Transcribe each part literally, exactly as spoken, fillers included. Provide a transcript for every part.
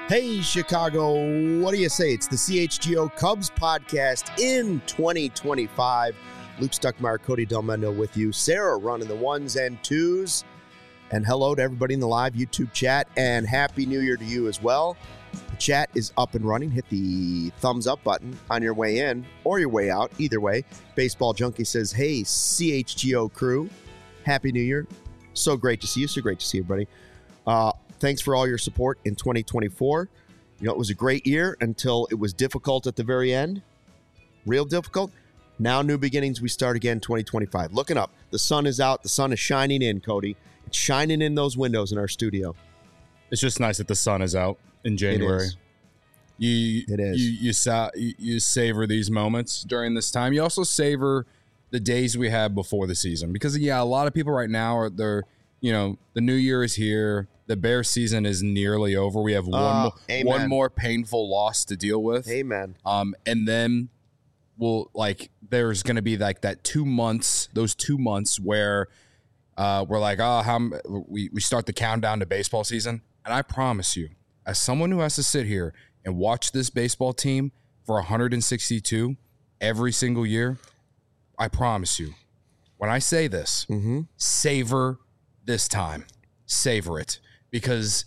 Hey, Chicago, what do you say? It's the C H G O Cubs podcast in twenty twenty-five. Luke Stuckmeyer, Cody Delmendo with you. Sarah running the ones and twos. And hello to everybody in the live YouTube chat. And Happy New Year to you as well. The chat is up and running. Hit the thumbs up button on your way in or your way out. Either way, Baseball Junkie says, hey, C H G O crew, Happy New Year. So great to see you. So great to see everybody. Uh, Thanks for all your support in twenty twenty-four. You know, it was a great year until it was difficult at the very end. Real difficult. Now, new beginnings. We start again twenty twenty-five. Looking up. The sun is out. The sun is shining in, Cody. It's shining in those windows in our studio. It's just nice that the sun is out in January. It is. You, it is. You, you, sa- you, you savor these moments during this time. You also savor the days we have before the season. Because, yeah, a lot of people right now are, they're, you know, the new year is here. The Bears season is nearly over. We have one, uh, mo- one more painful loss to deal with. Amen. Um, and then we'll like there's going to be like that two months, those two months where uh, we're like, oh, how m- we we start the countdown to baseball season. And I promise you, as someone who has to sit here and watch this baseball team for one hundred sixty-two every single year, I promise you, when I say this, mm-hmm. savor this time, savor it. Because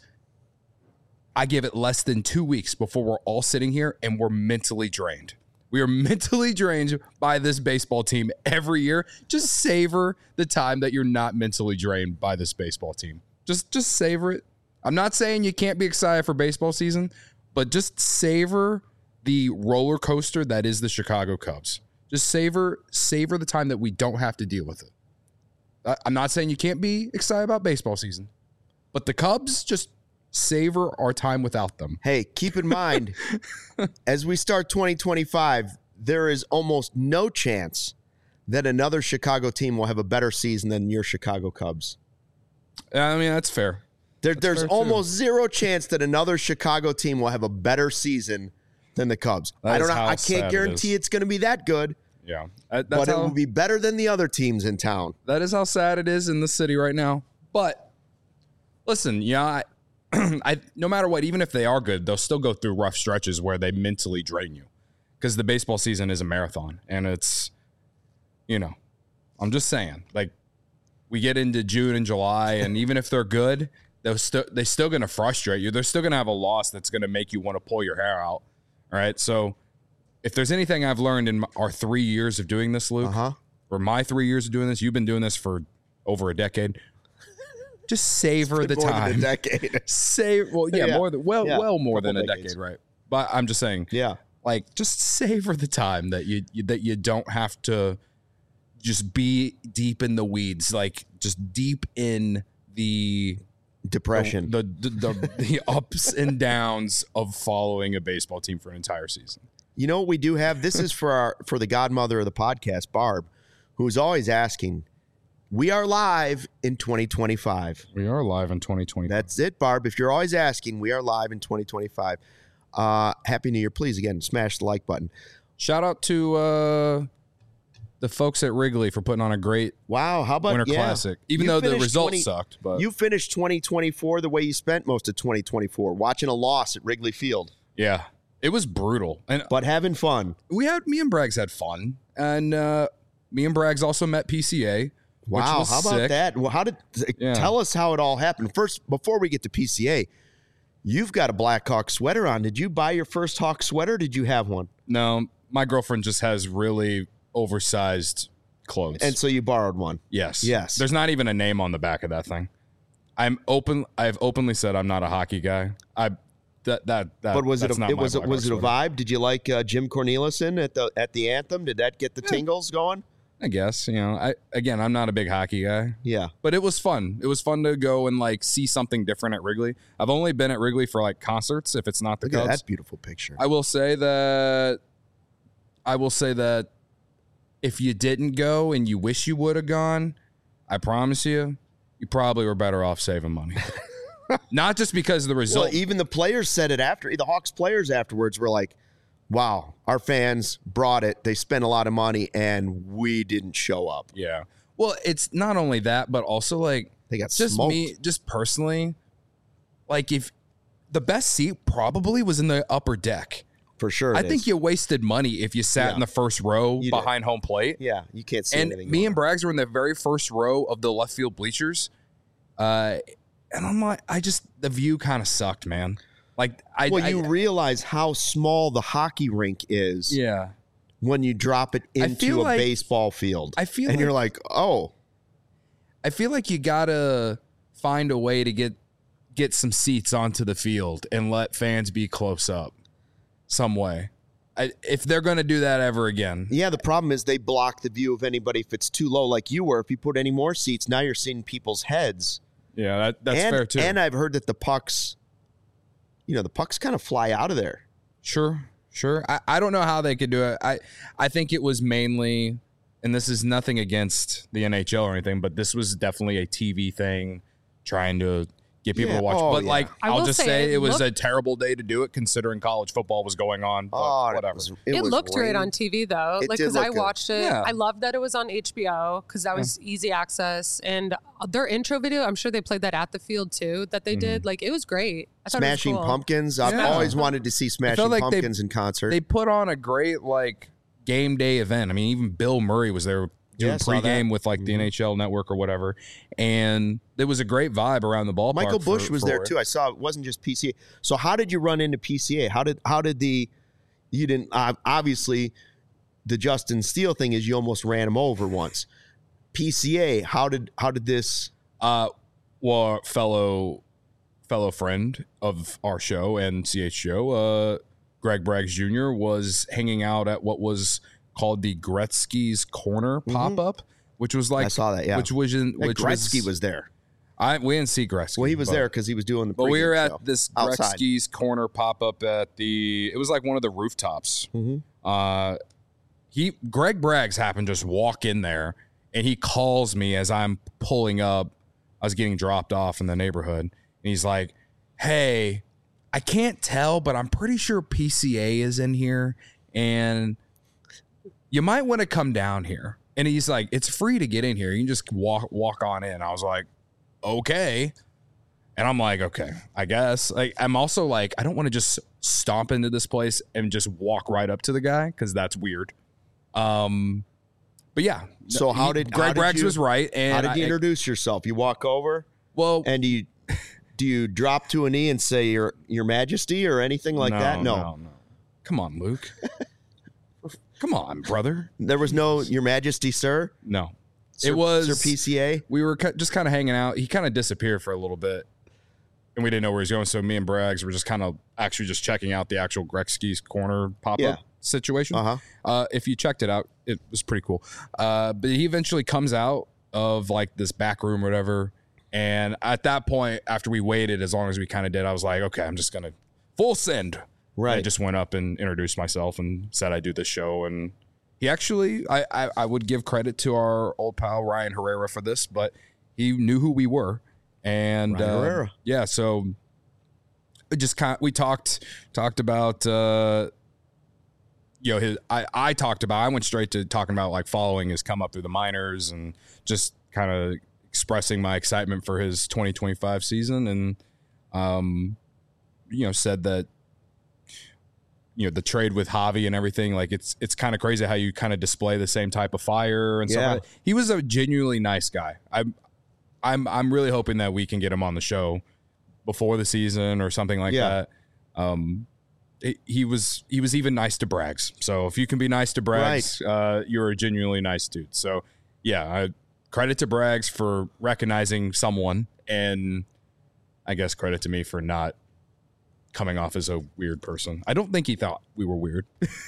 I give it less than two weeks before we're all sitting here and we're mentally drained. We are mentally drained by this baseball team every year. Just savor the time that you're not mentally drained by this baseball team. Just, just savor it. I'm not saying you can't be excited for baseball season, but just savor the roller coaster that is the Chicago Cubs. Just savor, savor the time that we don't have to deal with it. I'm not saying you can't be excited about baseball season. But the Cubs, just savor our time without them. Hey, keep in mind, as we start twenty twenty-five, there is almost no chance that another Chicago team will have a better season than your Chicago Cubs. I mean, that's fair. There, that's there's fair almost too. zero chance that another Chicago team will have a better season than the Cubs. That I don't know. I can't guarantee it it's going to be that good. Yeah, that's but how, it will be better than the other teams in town. That is how sad it is in the city right now. But listen, yeah, I, I no matter what, even if they are good, they'll still go through rough stretches where they mentally drain you, because the baseball season is a marathon, and it's, you know, I'm just saying, like, we get into June and July, and even if they're good, they're still they're still going to frustrate you. They're still going to have a loss that's going to make you want to pull your hair out. All right, so if there's anything I've learned in our three years of doing this, Luke, uh-huh. or my three years of doing this, you've been doing this for over a decade. Just savor the more time. Than a decade. Save well, yeah, yeah. more than well, yeah. well more Couple than a decades. decade, right? But I'm just saying, yeah, like just savor the time that you, you that you don't have to just be deep in the weeds, like just deep in the depression, the the, the, the, the ups and downs of following a baseball team for an entire season. You know what we do have? This is for our for the godmother of the podcast, Barb, who's always asking. We are live in twenty twenty-five. We are live in twenty twenty-five. That's it, Barb. If you're always asking, we are live in twenty twenty-five. Uh, Happy New Year. Please, again, smash the like button. Shout out to uh, the folks at Wrigley for putting on a great wow, how about Winter yeah. Classic. Even You though the finished results twenty sucked. But you finished twenty twenty-four the way you spent most of twenty twenty-four, watching a loss at Wrigley Field. Yeah, it was brutal. And But having fun. we had me and Braggs had fun. And uh, me and Braggs also met P C A. Wow, which was how about sick. that? Well, how did Yeah. tell us how it all happened? First, before we get to P C A, you've got a Blackhawk sweater on. Did you buy your first Hawk sweater? Or did you have one? No, my girlfriend just has really oversized clothes. And so you borrowed one. yes. Yes. There's not even a name on the back of that thing. I'm open. I've openly said I'm not a hockey guy. I that that that. But was it that's a, not it my was it Blackhawk was it a sweater. vibe? Did you like uh, Jim Cornelison at the at the anthem? Did that get the tingles going? I guess, you know, I again, I'm not a big hockey guy. Yeah. But it was fun. It was fun to go and like see something different at Wrigley. I've only been at Wrigley for like concerts if it's not the Look Cubs. at that beautiful picture. I will say that I will say that if you didn't go and you wish you would have gone, I promise you, you probably were better off saving money. Not just because of the result. Well, even the players said it after. The Hawks players afterwards were like, wow, our fans brought it. They spent a lot of money, and we didn't show up. Yeah. Well, it's not only that, but also like They got just smoked. me, just personally, like if the best seat probably was in the upper deck. For sure. I it think is. you wasted money if you sat Yeah. in the first row You behind home plate. Yeah, you can't see And anything. me going and Braggs were in the very first row of the left field bleachers. Uh, and I'm like, I just, the view kind of sucked, man. Like, I. Well, I, you realize how small the hockey rink is Yeah. when you drop it I into feel a like- baseball field. I feel and like, you're like, oh, I feel like you gotta find a way to get get some seats onto the field and let fans be close up some way. I, if they're going to do that ever again. yeah. The problem is they block the view of anybody if it's too low, like you were. If you put any more seats, now you're seeing people's heads. Yeah, that, that's and, fair too. And I've heard that the pucks, you know, the pucks kind of fly out of there. Sure, sure. I, I don't know how they could do it. I I think it was mainly, and this is nothing against the N H L or anything, but this was definitely a T V thing, trying to get people Yeah. to watch. Oh, but yeah. like, I I'll will just say say it it was looked- a terrible day to do it, considering college football was going on. But Oh, it whatever. was- It, was looked great rain- on T V though, It like did because look I good. watched it. Yeah. I loved that it was on H B O because that was easy access, and their intro video. I'm sure they played that at the field too. That they did, like it was great. I thought Smashing it was cool. Pumpkins. I've Yeah. always wanted to see Smashing like they- Pumpkins in concert. They put on a great like game day event. I mean, even Bill Murray was there doing Yeah, I saw that. Mm-hmm. pregame with like the N H L Network or whatever, and there was a great vibe around the ballpark. Michael Bush for- was for there it. too. I saw it wasn't just P C A. So how did you run into P C A? How did how did the you didn't uh, obviously the Justin Steele thing is you almost ran him over once. P C A, how did how did this? Uh, well, fellow fellow friend of our show and C H Show, uh, Greg Braggs Junior was hanging out at what was called the Gretzky's Corner pop up, which was like I saw that. Yeah, which was in Yeah, which Gretzky was, was, there. I we didn't see Gretzky. Well, he was but- there because he was doing the. But we pregame were at show. this Outside. Gretzky's Corner pop up at the. It was like one of the rooftops. Mhm. Uh, he Greg Braggs happened to just walk in there, and he calls me as I'm pulling up. I was getting dropped off in the neighborhood, and he's like, "Hey, I can't tell, but I'm pretty sure P C A is in here, and you might want to come down here." And he's like, "It's free to get in here. You can just walk walk on in." I was like, "Okay." And I'm like, okay, I guess. Like, I'm also like, I don't want to just stomp into this place and just walk right up to the guy because that's weird. Um, but yeah. So how did- Greg how did Braggs you- was right? And How did you I- introduce yourself? You walk over well, and do you do you drop to a knee and say your your Majesty or anything like that? No. no, no. Come on, Luke. Come on, brother. There was no Your Majesty, sir. No, Sir, it was Sir P C A. We were ki- just kind of hanging out. He kind of disappeared for a little bit, and we didn't know where he was going. So me and Braggs were just kind of actually just checking out the actual Gretzky's Corner pop up Yeah. situation. Uh huh. Uh, if you checked it out, it was pretty cool. Uh, but he eventually comes out of like this back room or whatever. And at that point, after we waited as long as we kind of did, I was like, okay, I'm just going to full send. Right. I just went up and introduced myself and said I do this show. And he actually, I, I, I would give credit to our old pal Ryan Herrera for this, but he knew who we were. And Ryan uh, Herrera. yeah, so it just kind we talked talked about uh, you know his I, I talked about I went straight to talking about like following his come up through the minors and just kind of expressing my excitement for his twenty twenty-five season and um you know said that you know the trade with Javi and everything like it's it's kind of crazy how you kind of display the same type of fire and Yeah. stuff like that. He was a genuinely nice guy. I'm I'm I'm really hoping that we can get him on the show before the season or something like Yeah. that. Um, he- he was he was even nice to Braggs. So if you can be nice to Braggs, uh, you're a genuinely nice dude. So yeah, I, credit to Braggs for recognizing someone, and I guess credit to me for not coming off as a weird person. I don't think he thought we were weird.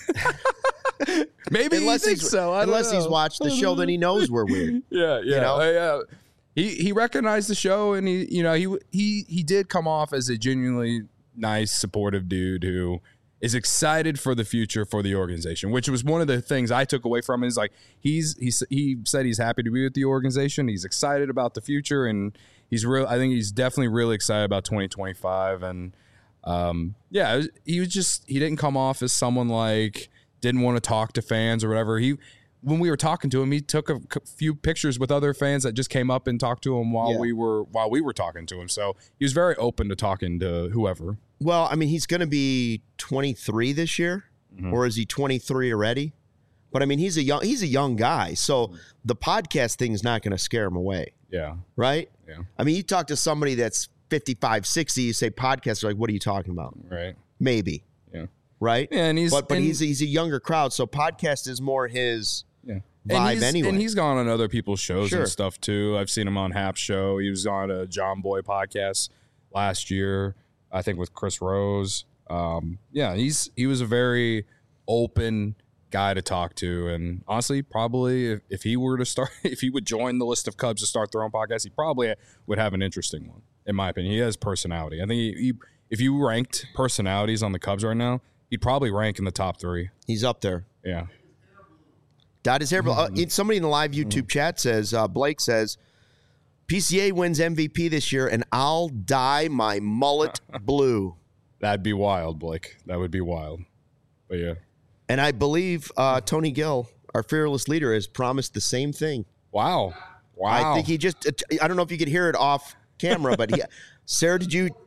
Maybe Unless he thinks he's so. I don't unless he's know. watched the show, then he knows we're weird. Yeah, yeah, know? uh, yeah. He he recognized the show, and he you know he he he did come off as a genuinely nice, supportive dude who is excited for the future for the organization, which was one of the things I took away from him. Is like he's he's he said he's happy to be with the organization. He's excited about the future, and he's real. I think he's definitely really excited about twenty twenty-five. And um, yeah, it was- he was just he didn't come off as someone like didn't want to talk to fans or whatever. He when we were talking to him, he took a few pictures with other fans that just came up and talked to him while Yeah. we were while we were talking to him. So he was very open to talking to whoever. Well, I mean, he's going to be twenty-three this year, Mhm. or is he twenty-three already? But I mean, he's a young he's a young guy, so the podcast thing is not going to scare him away, Yeah. right? Yeah. I mean, you talk to somebody that's fifty-five, sixty, you say podcast, they're like, what are you talking about? Right. Maybe, Yeah. right? Yeah, and he's but but and, he's he's a younger crowd, so podcast is more his yeah. vibe and he's, anyway. And he's gone on other people's shows Sure. and stuff too. I've seen him on Hap's show. He was on a John Boy podcast last year, I think, with Chris Rose. Um, yeah, he's he was a very open guy to talk to, and honestly, probably if, if he were to start, if he would join the list of Cubs to start their own podcast, he probably would have an interesting one, in my opinion. He has personality. I think he, he, if you ranked personalities on the Cubs right now, he'd probably rank in the top three. He's up there. Yeah. Dyed his hair blue. Mm-hmm. Uh, somebody in the live YouTube chat says, uh, Blake says, P C A wins M V P this year, and I'll dye my mullet blue. That'd be wild, Blake. That would be wild. But yeah. And I believe uh, Tony Gill, our fearless leader, has promised the same thing. Wow. Wow. I think he just, I don't know if you could hear it off camera, but he, Sarah, did you,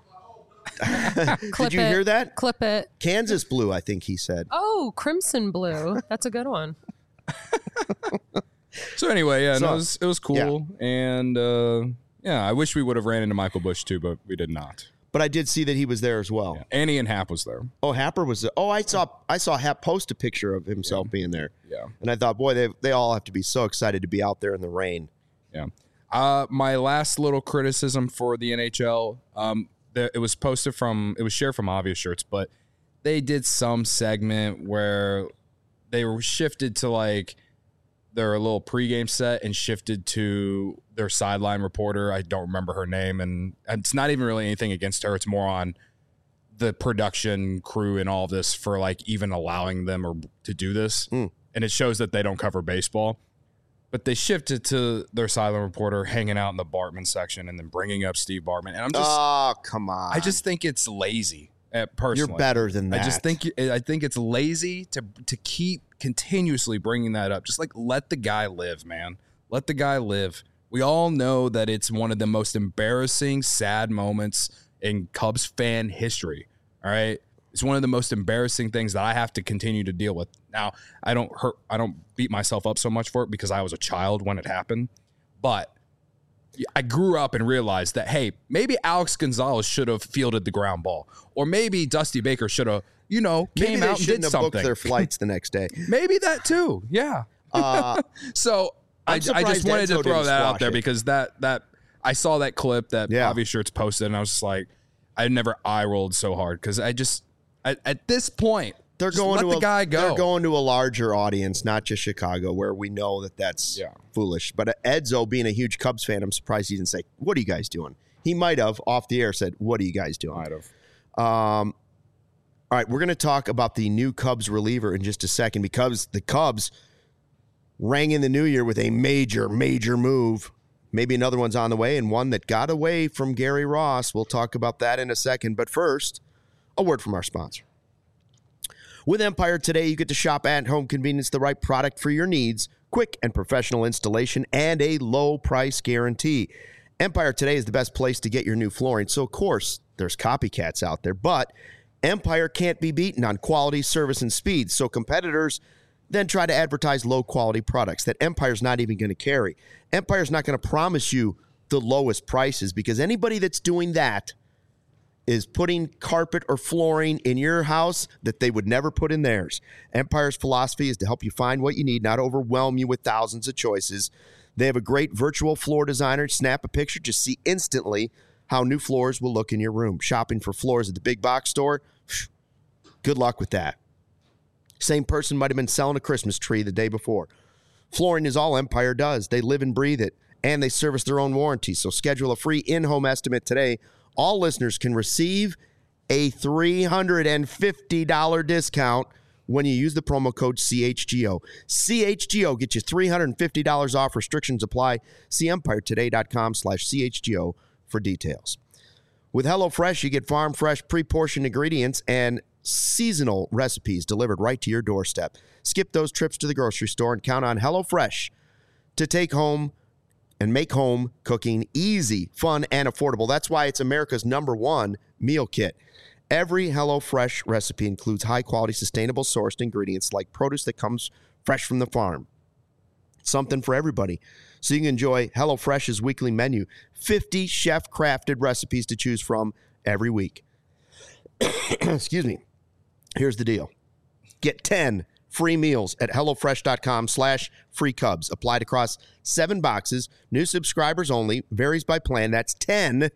Clip did you it. hear that? Clip it. Kansas blue, I think he said. Oh, crimson blue. That's a good one. So anyway, yeah, So, no, it was it was cool, and uh, yeah, I wish we would have ran into Michael Bush too, but we did not. But I did see that he was there as well. Yeah. Annie and Hap was there. Oh, Happer was there. Oh, I saw I saw Hap post a picture of himself being there. Yeah, And I thought, boy, they they all have to be so excited to be out there in the rain. yeah. Uh, my last little criticism for the N H L, um, the, it was posted from, it was shared from Obvious Shirts, but they did some segment where they were shifted to like their little pregame set and shifted to their sideline reporter. I don't remember her name, and it's not even really anything against her. It's more on the production crew and all of this for like even allowing them or to do this. Mm. And it shows that they don't cover baseball. But they shifted to their sideline reporter hanging out in the Bartman section and then bringing up Steve Bartman. And I'm just, Oh, come on. I just think it's lazy. Uh, personally, You're better than that. I just think I think it's lazy to to keep continuously bringing that up. Just like let the guy live, man. Let the guy live. We all know that it's one of the most embarrassing, sad moments in Cubs fan history. All right, it's one of the most embarrassing things that I have to continue to deal with. Now, I don't hurt. I don't beat myself up so much for it because I was a child when it happened, but I grew up and realized that, hey, maybe Alex Gonzalez should have fielded the ground ball, or maybe Dusty Baker should have, you know, Maybe came they out and shouldn't did have something. booked their flights the next day. Maybe that too. Yeah. Uh, So I, I'm I surprised just wanted Enzo to throw didn't that out squash there it. because that that I saw that clip that Yeah. Obvious Shirts posted, and I was just like, I never eye rolled so hard because I just at, at this point they're just going let to the a, guy go. They're going to a larger audience, not just Chicago, where we know that that's Yeah. foolish. But Edzo, being a huge Cubs fan, I'm surprised he didn't say, "What are you guys doing?" He might have off the air said, "What are you guys doing?" Might have. Um, all right, we're going to talk about the new Cubs reliever in just a second because the Cubs rang in the new year with a major, major move. Maybe another one's on the way, and one that got away from Gary Ross. We'll talk about that in a second. But first, a word from our sponsor. With Empire today, you get to shop at home convenience, the right product for your needs, quick and professional installation, and a low price guarantee. Empire today is the best place to get your new flooring. So, of course, there's copycats out there, but Empire can't be beaten on quality, service, and speed. So competitors then try to advertise low-quality products that Empire's not even going to carry. Empire's not going to promise you the lowest prices because anybody that's doing that is putting carpet or flooring in your house that they would never put in theirs. Empire's philosophy is to help you find what you need, not overwhelm you with thousands of choices. They have a great virtual floor designer. Snap a picture, just see instantly how new floors will look in your room. Shopping for floors at the big box store, good luck with that. Same person might have been selling a Christmas tree the day before. Flooring is all Empire does. They live and breathe it, and they service their own warranty. So schedule a free in-home estimate today. All listeners can receive a three hundred fifty dollars discount when you use the promo code C H G O. C H G O, get you three hundred fifty dollars off. Restrictions apply. See empiretoday.com slash CHGO for details. With HelloFresh, you get farm fresh, pre-portioned ingredients and seasonal recipes delivered right to your doorstep. Skip those trips to the grocery store and count on HelloFresh to take home and make home cooking easy, fun, and affordable. That's why it's America's number one meal kit. Every HelloFresh recipe includes high-quality, sustainable sourced ingredients like produce that comes fresh from the farm. Something for everybody. So you can enjoy HelloFresh's weekly menu. fifty chef-crafted recipes to choose from every week. Excuse me. Here's the deal. Get ten free meals at HelloFresh.com slash free Cubs. Applied across seven boxes. New subscribers only. Varies by plan. That's ten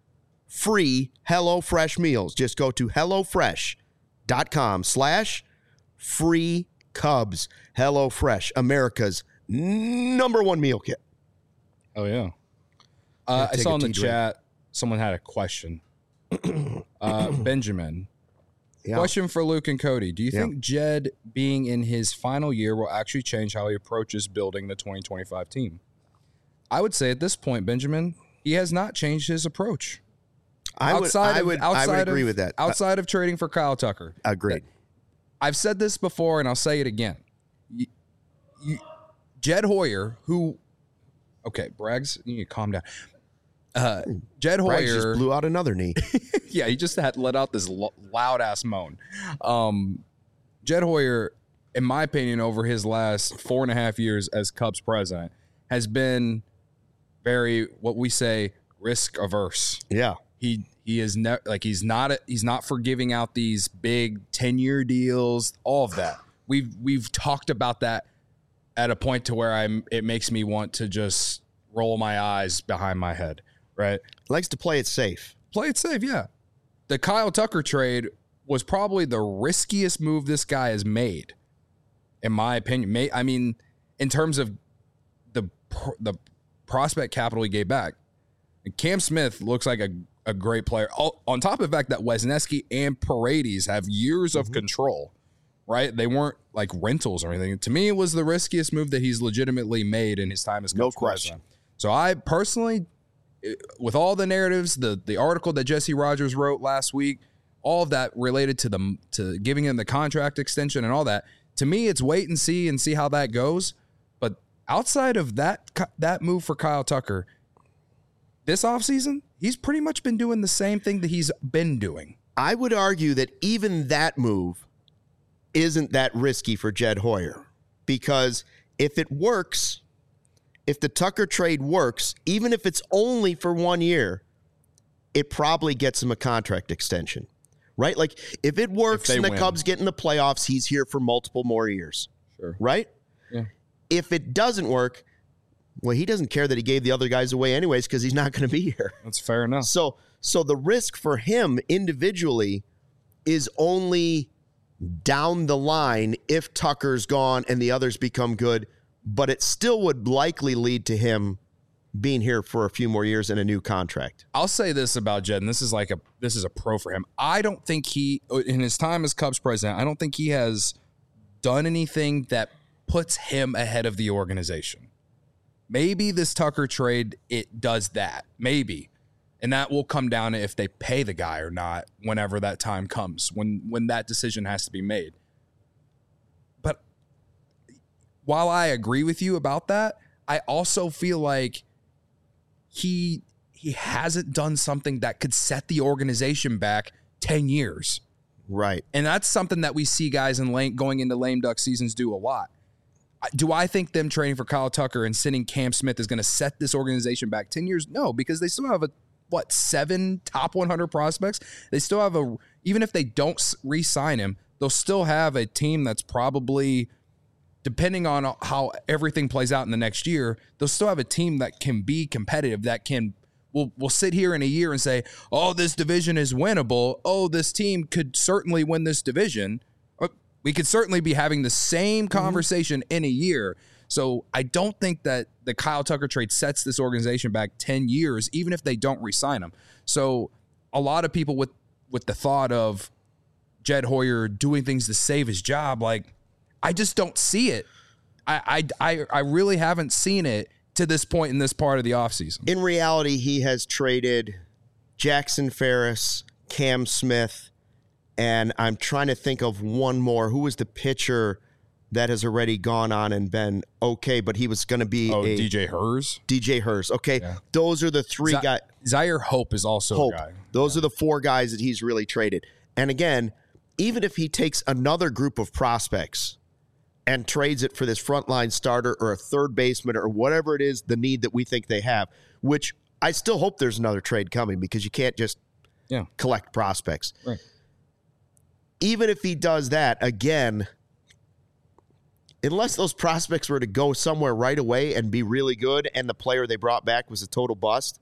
free HelloFresh meals. Just go to HelloFresh.com slash free Cubs. HelloFresh, America's number one meal kit. Oh, yeah. Uh, I saw in the chat, someone had a question. uh, Benjamin. Yeah. Question for Luke and Cody. Do you yeah. think Jed being in his final year will actually change how he approaches building the twenty twenty-five team? I would say at this point, Benjamin, he has not changed his approach. I would, outside I would, of, outside I would agree of, with that. Outside uh, of trading for Kyle Tucker. Agreed. I've said this before, and I'll say it again. You, you, Jed Hoyer, who, okay, Braggs, you need to calm down. Uh, Jed Hoyer Braggs just blew out another knee. Yeah, he just had let out this lo- loud ass moan. Um, Jed Hoyer, in my opinion, over his last four and a half years as Cubs president, has been very what we say risk averse. Yeah, he he is ne- like he's not a, he's not for giving out these big ten year deals. All of that we've we've talked about that at a point to where I'm. It makes me want to just roll my eyes behind my head. Right. Likes to play it safe. Play it safe, yeah. The Kyle Tucker trade was probably the riskiest move this guy has made, in my opinion. I mean, in terms of the the prospect capital he gave back. Cam Smith looks like a, a great player. On top of the fact that Wesneski and Paredes have years mm-hmm. of control, right? They weren't like rentals or anything. To me, it was the riskiest move that he's legitimately made in his time as Cubs no question. president. So I personally... with all the narratives, the the article that Jesse Rogers wrote last week, all of that related to the to giving him the contract extension and all that, to me, it's wait and see and see how that goes. But outside of that that move for Kyle Tucker, this offseason, he's pretty much been doing the same thing that he's been doing. I would argue that even that move isn't that risky for Jed Hoyer, because if it works... if the Tucker trade works, even if it's only for one year, it probably gets him a contract extension, right? Like, if it works if and the win. Cubs get in the playoffs, he's here for multiple more years, sure. right? Yeah. If it doesn't work, well, he doesn't care that he gave the other guys away anyways because he's not going to be here. That's fair enough. So, so the risk for him individually is only down the line if Tucker's gone and the others become good, but it still would likely lead to him being here for a few more years in a new contract. I'll say this about Jed, and this is like a this is a pro for him. I don't think he, in his time as Cubs president, I don't think he has done anything that puts him ahead of the organization. Maybe this Tucker trade, it does that. Maybe. And that will come down to if they pay the guy or not whenever that time comes, when when that decision has to be made. But while I agree with you about that, I also feel like he he hasn't done something that could set the organization back ten years. Right. And that's something that we see guys in lame, going into lame duck seasons do a lot. Do I think them trading for Kyle Tucker and sending Cam Smith is going to set this organization back ten years? No, because they still have a, what, seven top one hundred prospects? They still have a, even if they don't re-sign him, they'll still have a team that's probably, depending on how everything plays out in the next year, they'll still have a team that can be competitive, that can, we'll, we'll sit here in a year and say, oh, this division is winnable. Oh, this team could certainly win this division. We could certainly be having the same conversation mm-hmm. in a year. So I don't think that the Kyle Tucker trade sets this organization back ten years, even if they don't re-sign him. So a lot of people with, with the thought of Jed Hoyer doing things to save his job, like, I just don't see it. I, I, I, I really haven't seen it to this point in this part of the offseason. In reality, he has traded Jackson Ferris, Cam Smith, And I'm trying to think of one more. Who was the pitcher that has already gone on and been okay, but he was going to be Oh, a D J Hers. D J Hers. Okay, Yeah. those are the three Z- guys. Zaire Hope is also Hope. a guy. Those are the four guys that he's really traded. And again, even if he takes another group of prospects and trades it for this frontline starter or a third baseman or whatever it is, the need that we think they have, which I still hope there's another trade coming because you can't just Yeah. collect prospects. Right. Even if he does that, again, unless those prospects were to go somewhere right away and be really good and the player they brought back was a total bust,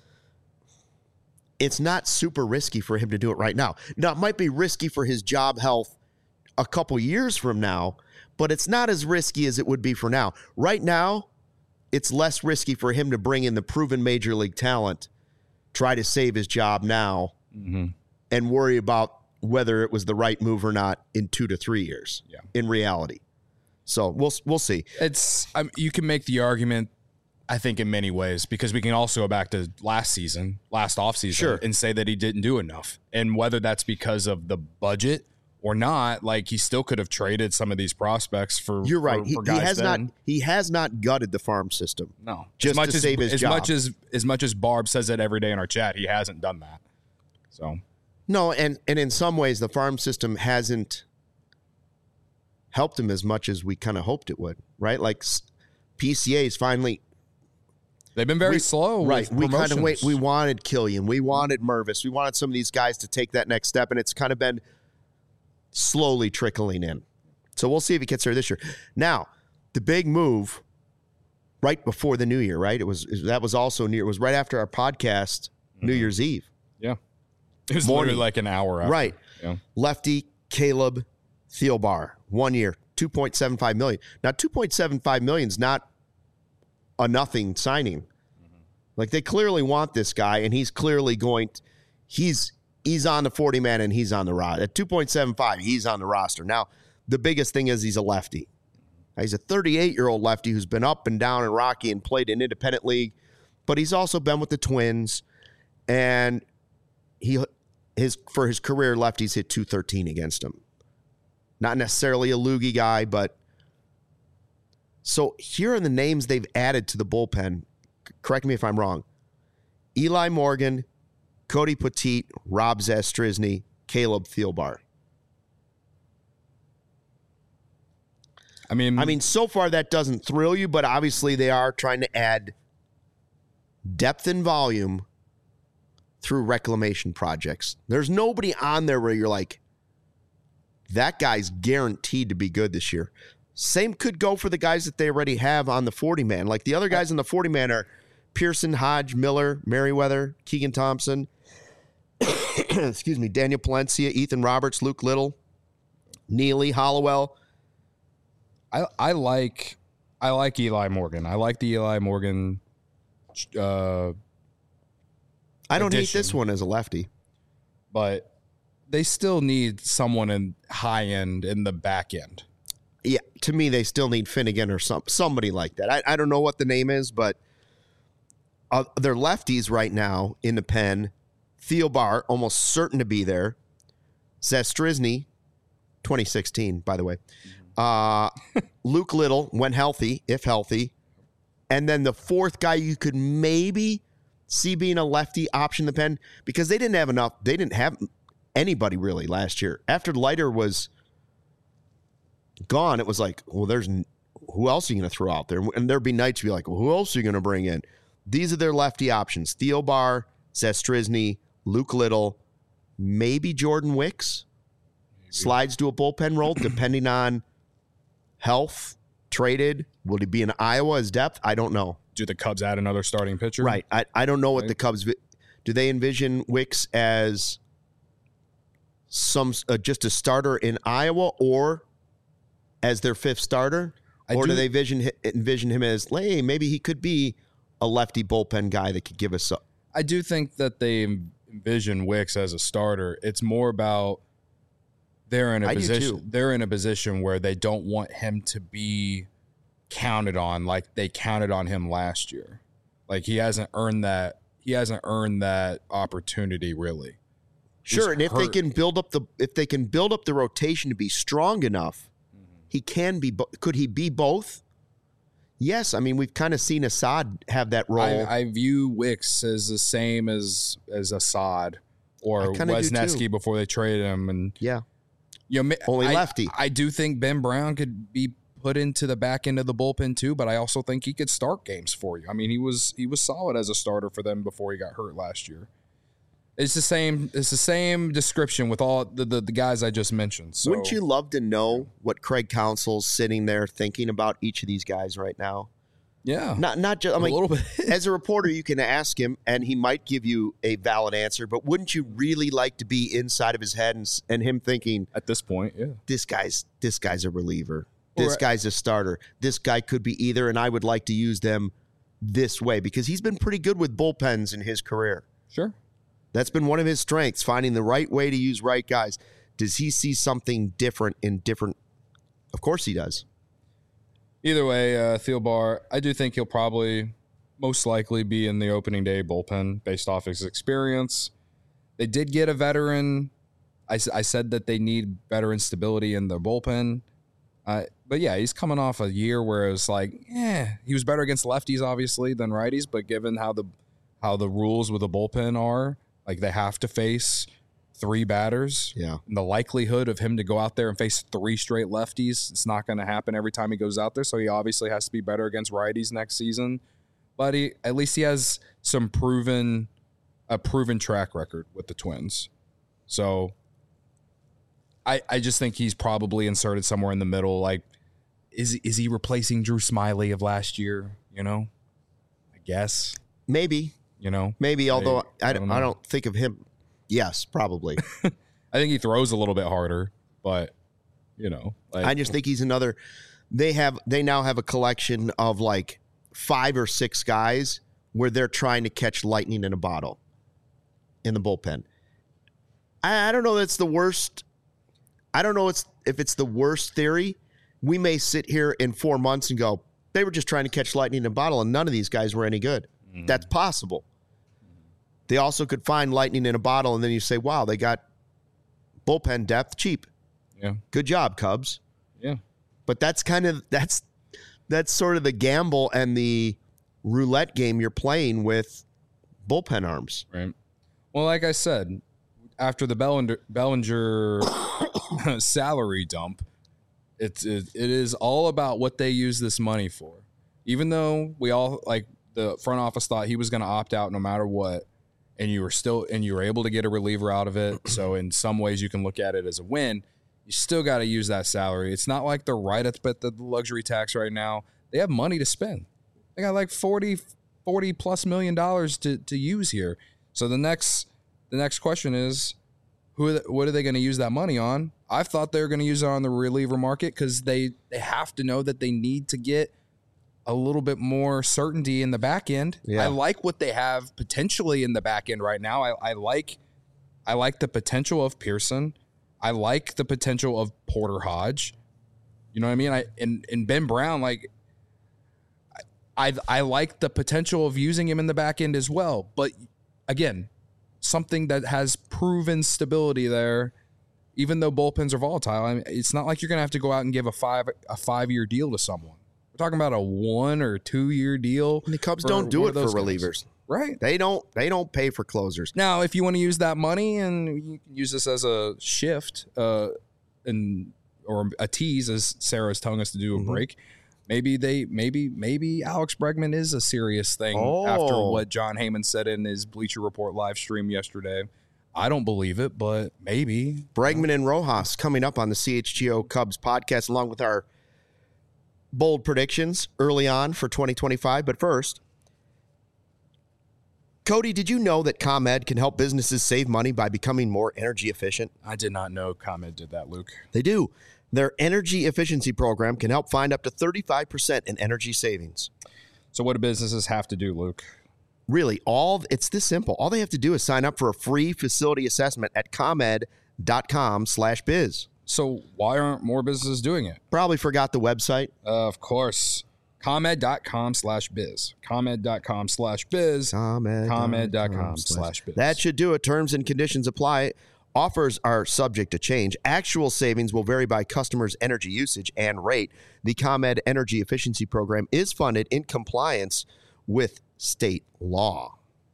it's not super risky for him to do it right now. Now, it might be risky for his job health a couple years from now, but it's not as risky as it would be for now. Right now, it's less risky for him to bring in the proven major league talent, try to save his job now, Mm-hmm. and worry about whether it was the right move or not in two to three years Yeah. in reality. So we'll we'll see. It's um, you can make the argument, I think, in many ways, because we can also go back to last season, last offseason, Sure. and say that he didn't do enough. And whether that's because of the budget or not, like he still could have traded some of these prospects for. You're right. For, He, for he guys has then. not he has not gutted the farm system. No, just as much to as, save his as job. much as as much as Barb says it every day in our chat, he hasn't done that. So No, and and in some ways the farm system hasn't helped him as much as we kind of hoped it would, right? Like s- P C A's finally they've been very we- slow. right. With We kind of wait. promotions. We wanted Killian, we wanted Mervis, we wanted some of these guys to take that next step, and it's kind of been slowly trickling in. So we'll see if he gets there this year. Now, the big move right before the new year, right? It was that was also near. It was right after our podcast, New Mm-hmm. Year's Eve. Yeah, it was Morning. literally like an hour after. Right. Yeah. Lefty Caleb Thielbar, one year, two point seven five million dollars. Now, two point seven five million dollars is not a nothing signing. Like, they clearly want this guy, and he's clearly going to, he's he's on the forty man and he's on the roster. At two point seven five, he's on the roster. Now, the biggest thing is he's a lefty. Now, he's a thirty-eight-year-old lefty who's been up and down and rocky and played in independent league, but he's also been with the Twins, and he his for his career, lefties hit two thirteen against him. Not necessarily a loogie guy, but so here are the names they've added to the bullpen. C- Correct me if I'm wrong. Eli Morgan, Cody Petit, Rob Zastrisny, Caleb Thielbar. I mean, I mean, so far that doesn't thrill you, but obviously they are trying to add depth and volume through reclamation projects. There's nobody on there where you're like, that guy's guaranteed to be good this year. Same could go for the guys that they already have on the forty man. Like the other guys on the forty man are Pearson, Hodge, Miller, Merriweather, Keegan Thompson, excuse me, Daniel Palencia, Ethan Roberts, Luke Little, Neely, Hollowell. I I like I like Eli Morgan. I like the Eli Morgan. Uh, I don't hate addition. this one as a lefty. but they still need someone in high end in the back end. Yeah, to me, they still need Finnegan or some somebody like that. I, I don't know what the name is, but uh, they're lefties right now in the pen. Thielbar, almost certain to be there. Zastrisny, twenty sixteen, by the way. Uh, Luke Little, when healthy, if healthy. And then the fourth guy you could maybe see being a lefty option in the pen, because they didn't have enough. They didn't have anybody really last year. After Leiter was gone, it was like, well, there's who else are you going to throw out there? And there'd be nights to be like, well, who else are you going to bring in? These are their lefty options. Thielbar, Zastrisny, Luke Little, maybe Jordan Wicks slides to a bullpen role depending on health, traded. Will he be in Iowa as depth? I don't know. Do the Cubs add another starting pitcher? Right. I, I don't know what Right. the Cubs vi- do. They envision Wicks as some uh, just a starter in Iowa or as their fifth starter, I or do, do- they vision hi- envision him as, hey, maybe he could be a lefty bullpen guy that could give us a, I do think that they envision Wicks as a starter. It's more about they're in a I do position too. they're in a position where they don't want him to be counted on like they counted on him last year. Like he hasn't earned that he hasn't earned that opportunity really. Sure, and if hurt. they can build up the if they can build up the rotation to be strong enough, mm-hmm. he can be. Bo- could he be both? Yes, I mean we've kind of seen Assad have that role. I, I view Wicks as the same as as Assad or Wisniewski before they traded him, and yeah, you know, only I, lefty. I do think Ben Brown could be put into the back end of the bullpen too, but I also think he could start games for you. I mean, he was he was solid as a starter for them before he got hurt last year. It's the same. It's the same description with all the, the, the guys I just mentioned. So. Wouldn't you love to know what Craig Counsell's sitting there thinking about each of these guys right now? Yeah, not not just. I mean, a little bit. As a reporter, you can ask him, and he might give you a valid answer. But wouldn't you really like to be inside of his head and, and him thinking at this point, yeah, this guy's this guy's a reliever. This right. guy's a starter. This guy could be either, and I would like to use them this way because he's been pretty good with bullpens in his career. Sure. That's been one of his strengths, finding the right way to use right guys. Does he see something different in different? Of course he does. Either way, uh, Thielbar, I do think he'll probably most likely be in the opening day bullpen based off his experience. They did get a veteran. I, I said that they need veteran stability in their bullpen. Uh, but yeah, he's coming off a year where it was like, yeah, he was better against lefties, obviously, than righties. But given how the how the rules with the bullpen are, like they have to face three batters. Yeah. And the likelihood of him to go out there and face three straight lefties, it's not going to happen every time he goes out there. So he obviously has to be better against righties next season. But he, at least he has some proven, a proven track record with the Twins. So I, I just think he's probably inserted somewhere in the middle. Like, is is he replacing Drew Smiley of last year? You know, I guess maybe. You know, maybe. Although I, I don't, know. I don't think of him. Yes, probably. I think he throws a little bit harder, but you know, like, I just think he's another. They have they now have a collection of like five or six guys where they're trying to catch lightning in a bottle in the bullpen. I, I don't know. That's the worst. I don't know it's, if it's the worst theory. We may sit here in four months and go, they were just trying to catch lightning in a bottle, and none of these guys were any good. Mm-hmm. That's possible. They also could find lightning in a bottle, and then you say, wow, they got bullpen depth cheap. Yeah. Good job, Cubs. Yeah. But that's kind of that's that's sort of the gamble and the roulette game you're playing with bullpen arms. Right. Well, like I said, after the Bellinger, Bellinger salary dump, it's it, it is all about what they use this money for. Even though we all, like, the front office thought he was going to opt out no matter what, and you were still and you were able to get a reliever out of it. So in some ways you can look at it as a win. You still got to use that salary. It's not like they're right at the, the luxury tax right now. They have money to spend. They got like forty, forty plus million dollars to, to use here. So the next the next question is, who are they, what are they going to use that money on? I thought they were going to use it on the reliever market because they, they have to know that they need to get a little bit more certainty in the back end. Yeah. I like what they have potentially in the back end right now. I, I like I like the potential of Pearson. I like the potential of Porter Hodge. You know what I mean? I and, and Ben Brown, like I I like the potential of using him in the back end as well. But again, something that has proven stability there, even though bullpens are volatile. I mean, it's not like you're gonna have to go out and give a five a five year deal to someone. We're talking about a one or two year deal. And the Cubs don't do it for relievers. Guys. Right. They don't they don't pay for closers. Now, if you want to use that money and you can use this as a shift uh, and or a tease, as Sarah's telling us to do a mm-hmm. break, maybe they maybe maybe Alex Bregman is a serious thing oh. after what John Heyman said in his Bleacher Report live stream yesterday. I don't believe it, but maybe. Bregman and Rojas coming up on the C H G O Cubs podcast, along with our bold predictions early on for twenty twenty-five. But first, Cody, did you know that ComEd can help businesses save money by becoming more energy efficient? I did not know ComEd did that, Luke. They do. Their energy efficiency program can help find up to thirty-five percent in energy savings. So what do businesses have to do, Luke? Really, all it's this simple. All they have to do is sign up for a free facility assessment at ComEd.com slash biz. So why aren't more businesses doing it? Probably forgot the website. Uh, of course. ComEd.com slash biz. ComEd.com slash biz. ComEd. ComEd.com slash biz. That should do it. Terms and conditions apply. Offers are subject to change. Actual savings will vary by customers' energy usage and rate. The ComEd Energy Efficiency Program is funded in compliance with state law.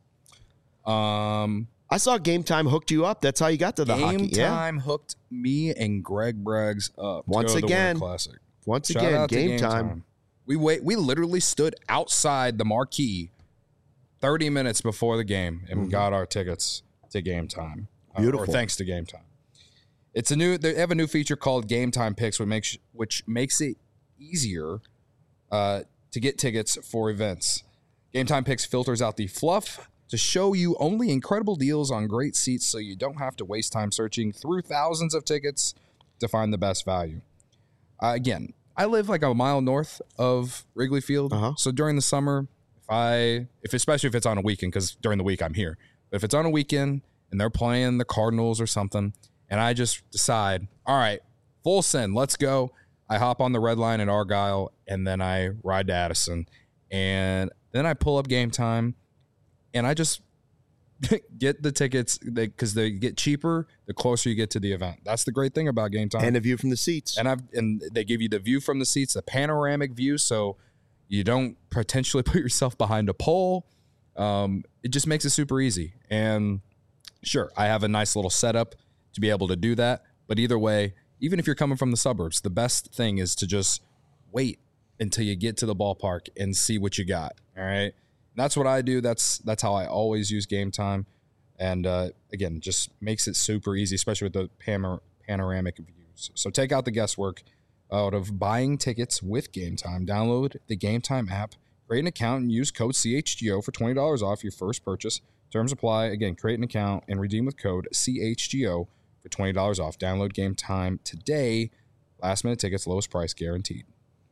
Um, I saw Game Time hooked you up. That's how you got to the Game hockey. Time yeah. hooked me and Greg Braggs up. Once to go to the again, Winter Classic. Once Shout again, out to game, time. We wait. We literally stood outside the marquee thirty minutes before the game and Mm-hmm. got our tickets to Game Time. Uh, Beautiful. or thanks to Game Time. It's a new. They have a new feature called Game Time Picks, which makes which makes it easier uh, to get tickets for events. Game Time Picks filters out the fluff to show you only incredible deals on great seats, so you don't have to waste time searching through thousands of tickets to find the best value. Uh, again, I live like a mile north of Wrigley Field, Uh-huh. so during the summer, if I, if especially if it's on a weekend, because during the week I'm here, but if it's on a weekend and they're playing the Cardinals or something, and I just decide, all right, full send, let's go. I hop on the red line at Argyle, and then I ride to Addison, and then I pull up Game Time, and I just get the tickets because they, they get cheaper the closer you get to the event. That's the great thing about Game Time. And a view from the seats. And I've and they give you the view from the seats, the panoramic view, so you don't potentially put yourself behind a pole. Um, it just makes it super easy. And sure, I have a nice little setup to be able to do that. But either way, even if you're coming from the suburbs, the best thing is to just wait until you get to the ballpark and see what you got. All right. And that's what I do. That's that's how I always use Game Time. And uh, again, just makes it super easy, especially with the panor- panoramic views. So take out the guesswork out of buying tickets with Game Time. Download the Game Time app, create an account, and use code C H G O for twenty dollars off your first purchase. Terms apply. Again, create an account and redeem with code C H G O for twenty dollars off. Download Game Time today. Last minute tickets, lowest price guaranteed.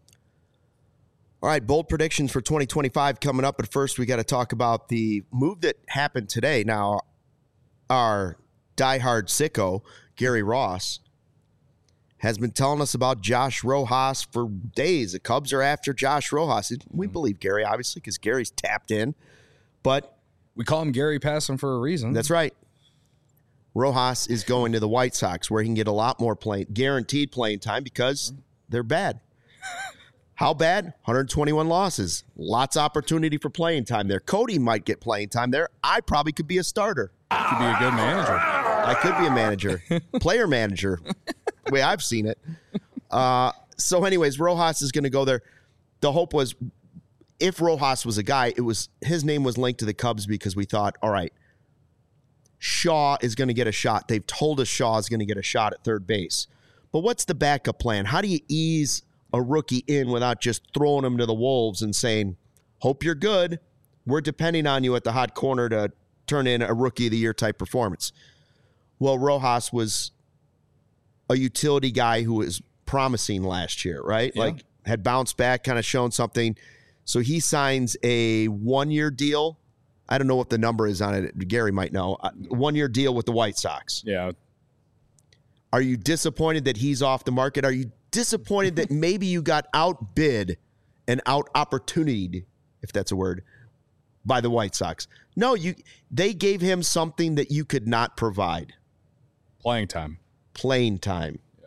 All right, bold predictions for twenty twenty-five coming up. But first, we got to talk about the move that happened today. Now, our diehard sicko, Gary Ross, has been telling us about Josh Rojas for days. The Cubs are after Josh Rojas. We believe Gary, obviously, because Gary's tapped in. But we call him Gary Passing for a reason. That's right. Rojas is going to the White Sox, where he can get a lot more playing, guaranteed playing time because they're bad. How bad? one hundred twenty-one losses. Lots of opportunity for playing time there. Cody might get playing time there. I probably could be a starter. Could be a good manager. I could be a manager. Player manager. The way I've seen it. Uh, so anyways, Rojas is going to go there. The hope was if Rojas was a guy, it was his name was linked to the Cubs because we thought, all right, Shaw is going to get a shot. They've told us Shaw is going to get a shot at third base. But what's the backup plan? How do you ease a rookie in without just throwing him to the wolves and saying, hope you're good. We're depending on you at the hot corner to turn in a rookie of the year type performance. Well, Rojas was a utility guy who was promising last year, right? Yeah. Like had bounced back, kind of shown something. So he signs a one-year deal. I don't know what the number is on it. Gary might know. One-year deal with the White Sox. Yeah. Are you disappointed that he's off the market? Are you disappointed that maybe you got outbid and out opportunityed, if that's a word, by the White Sox? No, you. They gave him something that you could not provide. Playing time. Playing time. Yeah.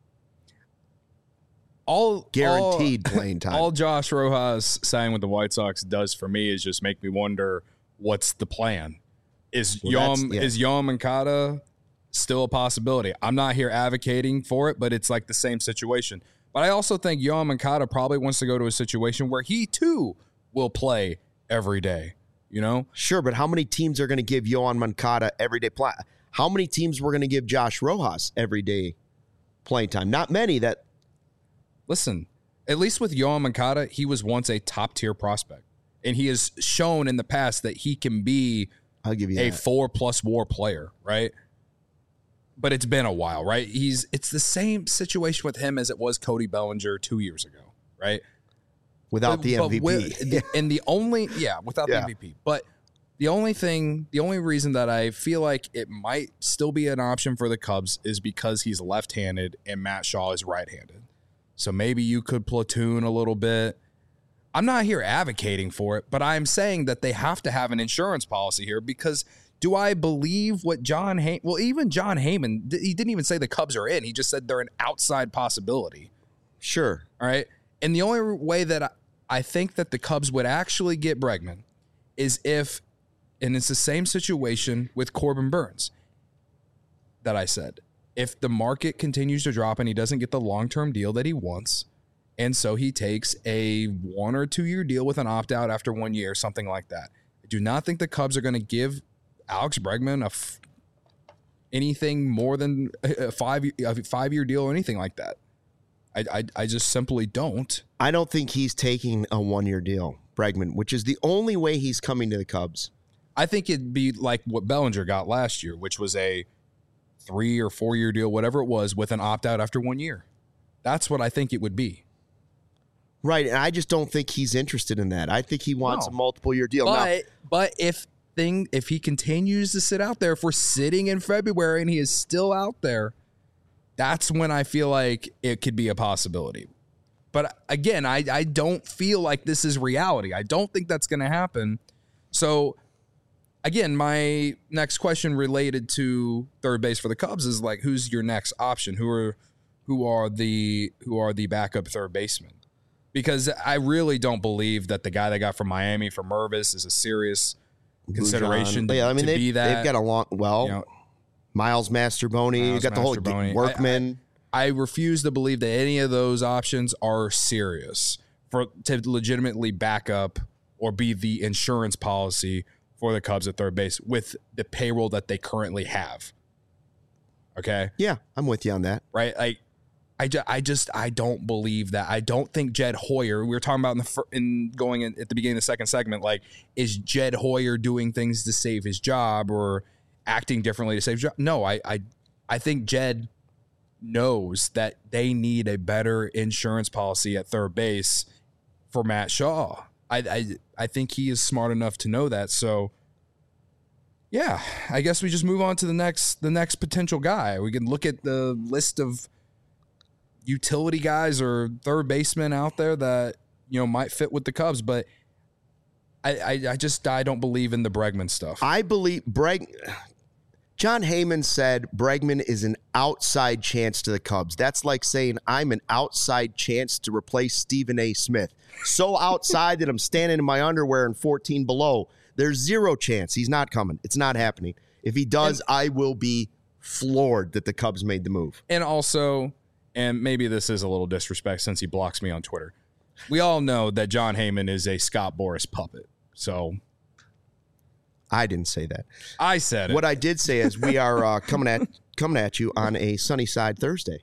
All Guaranteed all, playing time. All Josh Rojas signing with the White Sox does for me is just make me wonder what's the plan. Is Well, Yoan yeah. is Yoan Moncada still a possibility? I'm not here advocating for it, but it's like the same situation. But I also think Yoan Moncada probably wants to go to a situation where he too will play every day. You know, Sure, but how many teams are going to give Yoan Moncada everyday play? How many teams were going to give Josh Rojas everyday playing time? Not many. That listen, at least with Yoan Moncada, he was once a top tier prospect, and he has shown in the past that he can be I'll give you a that. four plus WAR player, right? But it's been a while, right? He's it's the same situation with him as it was Cody Bellinger two years ago, right? Without But- the but M V P. with- the- and the only yeah, without Yeah. the M V P. But the only thing, the only reason that I feel like it might still be an option for the Cubs is because he's left-handed and Matt Shaw is right-handed. So maybe you could platoon a little bit. I'm not here advocating for it, but I'm saying that they have to have an insurance policy here because Do I believe what John Heyman? Well, even John Heyman, he didn't even say the Cubs are in. He just said they're an outside possibility. Sure. All right. And the only way that I, I think that the Cubs would actually get Bregman is if, and it's the same situation with Corbin Burns that I said. If the market continues to drop and he doesn't get the long-term deal that he wants, and so he takes a one or two year deal with an opt-out after one year, something like that. I do not think the Cubs are going to give Alex Bregman a f- anything more than a five a five year deal or anything like that. I, I I just simply don't. I don't think he's taking a one year deal, Bregman, which is the only way he's coming to the Cubs. I think it'd be like what Bellinger got last year, which was a three or four year deal, whatever it was, with an opt out after one year. That's what I think it would be. Right, and I just don't think he's interested in that. I think he wants No. a multiple year deal. But now, but if thing if he continues to sit out there, if we're sitting in February and he is still out there, that's when I feel like it could be a possibility. But again, I, I don't feel like this is reality. I don't think that's going to happen. So again, my next question related to third base for the Cubs is like, who's your next option? Who are who are the who are the backup third basemen? Because I really don't believe that the guy they got from Miami for Mervis is a serious consideration to, yeah, I mean, to they've, be that. they've got a long, well, you know, Miles Masterboni, you Miles got the whole Masterboni. Workman. I, I refuse to believe that any of those options are serious for to legitimately back up or be the insurance policy for the Cubs at third base with the payroll that they currently have. Okay? Yeah, I'm with you on that. Right? Like, I, ju- I just I don't believe that. I don't think Jed Hoyer. We were talking about in the fir- in going in, at the beginning of the second segment. Like, is Jed Hoyer doing things to save his job or acting differently to save his job? No, I I I think Jed knows that they need a better insurance policy at third base for Matt Shaw. I I I think he is smart enough to know that. So yeah, I guess we just move on to the next the next potential guy. We can look at the list of utility guys or third basemen out there that, you know, might fit with the Cubs, but I, I, I just I don't believe in the Bregman stuff. I believe Breg. John Heyman said Bregman is an outside chance to the Cubs. That's like saying I'm an outside chance to replace Stephen A. Smith. So outside that I'm standing in my underwear in fourteen below. There's zero chance he's not coming. It's not happening. If he does, and, I will be floored that the Cubs made the move. And also, and maybe this is a little disrespect since he blocks me on Twitter, we all know that John Heyman is a Scott Boras puppet. So I didn't say that. I said it. What I did say is we are uh, coming at coming at you on a sunny side Thursday.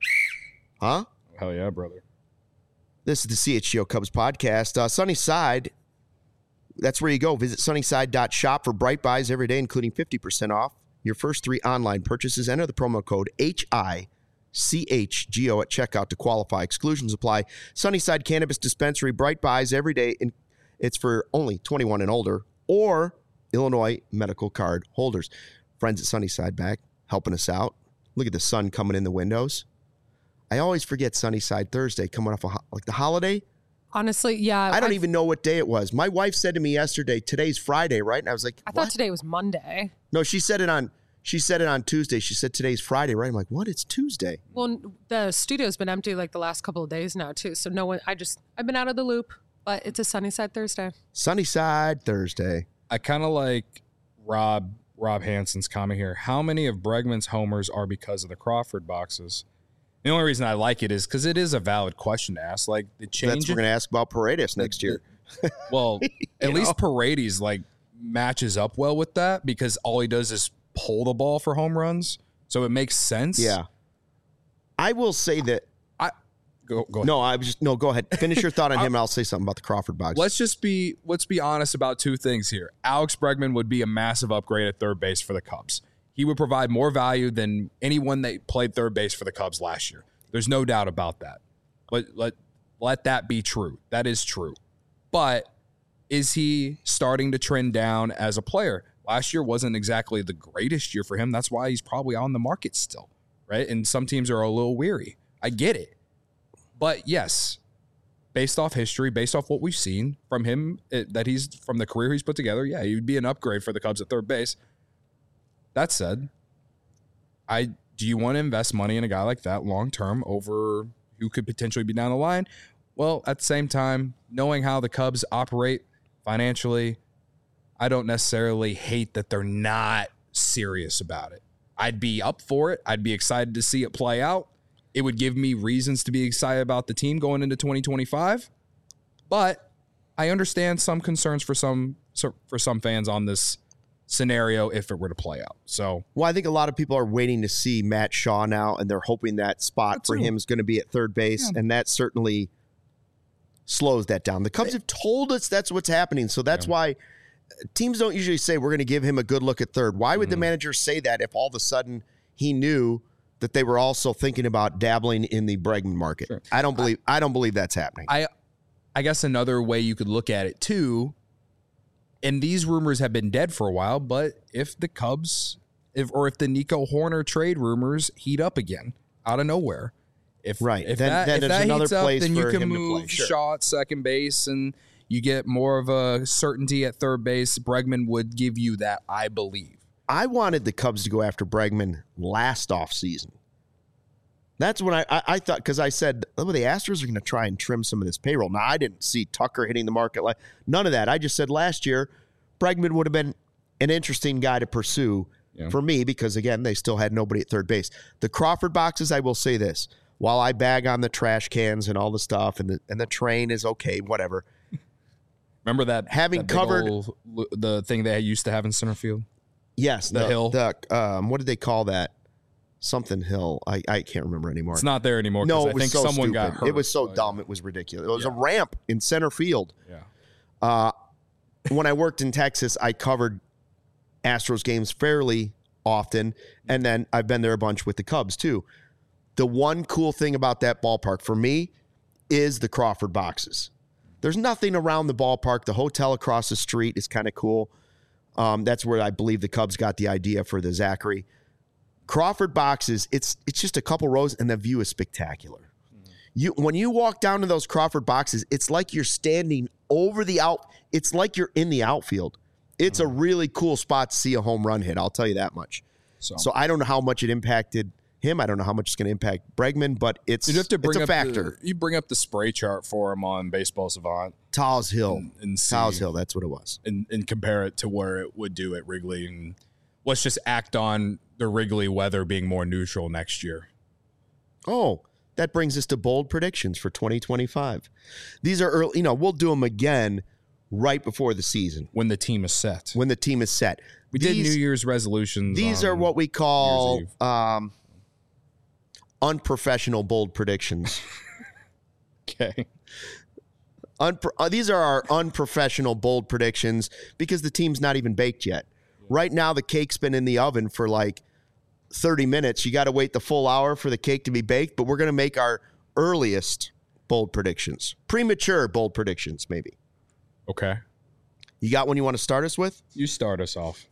Huh? Hell yeah, brother. This is the C H G O Cubs podcast. Uh, sunny side, that's where you go. Visit sunnyside dot shop for bright buys every day, including fifty percent off your first three online purchases. Enter the promo code H I C H G O at checkout to qualify. Exclusions apply. Sunnyside Cannabis Dispensary, bright buys every day. In, it's for only twenty-one and older or Illinois medical card holders. Friends at Sunnyside back helping us out. Look at the sun coming in the windows. I always forget Sunnyside Thursday coming off a ho- like the holiday. Honestly, yeah. I don't I've, even know what day it was. My wife said to me yesterday, today's Friday, right? And I was like, I what? thought today was Monday. No, she said it on she said it on Tuesday. She said today's Friday, right? I'm like, what? It's Tuesday. Well, the studio's been empty like the last couple of days now too. So no one. I just I've been out of the loop. But it's a Sunnyside Thursday. Sunnyside Thursday. I kind of like Rob Rob Hanson's comment here. How many of Bregman's homers are because of the Crawford boxes? The only reason I like it is because it is a valid question to ask. Like the change. That's what we're going to ask about Paredes next year. Well, at You least know? Paredes like matches up well with that because all he does is pull the ball for home runs, so it makes sense. Yeah. I will say that. I go go ahead. No, I was just no. Go ahead. Finish your thought on him, and I'll say something about the Crawford box. Let's just be let's be honest about two things here. Alex Bregman would be a massive upgrade at third base for the Cubs. He would provide more value than anyone that played third base for the Cubs last year. There's no doubt about that. Let let let that be true. That is true. But is he starting to trend down as a player? Last year wasn't exactly the greatest year for him. That's why he's probably on the market still, right? And some teams are a little weary. I get it. But yes, based off history, based off what we've seen from him, it, that he's from the career he's put together, yeah, he would be an upgrade for the Cubs at third base. That said, I do you want to invest money in a guy like that long term over who could potentially be down the line? Well, at the same time, knowing how the Cubs operate financially, I don't necessarily hate that they're not serious about it. I'd be up for it. I'd be excited to see it play out. It would give me reasons to be excited about the team going into twenty twenty-five. But I understand some concerns for some for some fans on this scenario if it were to play out. So, well, I think a lot of people are waiting to see Matt Shaw now, and they're hoping that spot for him is going to be at third base, yeah. and that certainly slows that down. The Cubs have told us that's what's happening, so that's yeah. why teams don't usually say we're going to give him a good look at third. Why would mm-hmm. the manager say that if all of a sudden he knew that they were also thinking about dabbling in the Bregman market? Sure. I don't believe I, I don't believe that's happening. I I guess another way you could look at it too, and these rumors have been dead for a while, but if the Cubs, if or if the Nico Hoerner trade rumors heat up again out of nowhere, if right, if then, that, then if there's that another heats place up, then for you can him move to play. Sure. Shaw at second base, and you get more of a certainty at third base. Bregman would give you that, I believe. I wanted the Cubs to go after Bregman last offseason. That's when I, I, I thought, because I said, oh, the Astros are going to try and trim some of this payroll. Now, I didn't see Tucker hitting the market. Like, none of that. I just said last year, Bregman would have been an interesting guy to pursue yeah. for me because, again, they still had nobody at third base. The Crawford boxes, I will say this. While I bag on the trash cans and all the stuff, and the, and the train is okay, whatever. Remember that having that big covered old, the thing they used to have in center field? Yes. The, the hill. The, um, what did they call that? Something Hill. I, I can't remember anymore. It's not there anymore. No, it I was think so someone stupid. got hurt. It was so but, dumb. It was ridiculous. It was yeah. a ramp in center field. Yeah. Uh, when I worked in Texas, I covered Astros games fairly often, and then I've been there a bunch with the Cubs too. The one cool thing about that ballpark for me is the Crawford boxes. There's nothing around the ballpark. The hotel across the street is kind of cool. Um, that's where I believe the Cubs got the idea for the Zachary. Crawford boxes, it's it's just a couple rows, and the view is spectacular. Mm-hmm. You when you walk down to those Crawford boxes, it's like you're standing over the out. It's like you're in the outfield. It's mm-hmm. a really cool spot to see a home run hit. I'll tell you that much. So, so I don't know how much it impacted him. I don't know how much it's going to impact Bregman, but it's, you have to bring it's a up factor. The, you bring up the spray chart for him on Baseball Savant. Towles Hill. And, and see, Towles Hill, that's what it was. And, and compare it to where it would do at Wrigley. And let's just act on the Wrigley weather being more neutral next year. Oh, that brings us to bold predictions for twenty twenty-five. These are early, you know, we'll do them again right before the season. When the team is set. When the team is set. We these, did New Year's resolutions. These are what we call um, unprofessional bold predictions. Okay. Unpro- uh, these are our unprofessional bold predictions because the team's not even baked yet. Right now, the cake's been in the oven for like thirty minutes. You got to wait the full hour for the cake to be baked, but we're going to make our earliest bold predictions. Premature bold predictions, maybe. Okay. You got one you want to start us with? You start us off.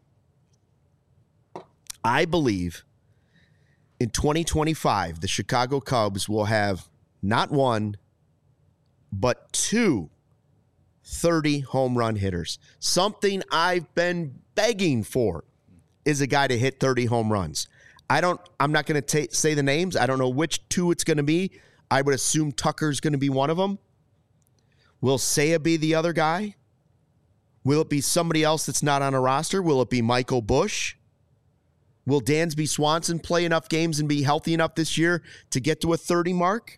I believe in twenty twenty-five, the Chicago Cubs will have not one, but two thirty home run hitters. Something I've been begging for is a guy to hit thirty home runs. I don't, I'm not going to say the names. I don't know which two it's going to be. I would assume Tucker's going to be one of them. Will Seiya be the other guy? Will it be somebody else that's not on a roster? Will it be Michael Busch? Will Dansby Swanson play enough games and be healthy enough this year to get to a thirty mark?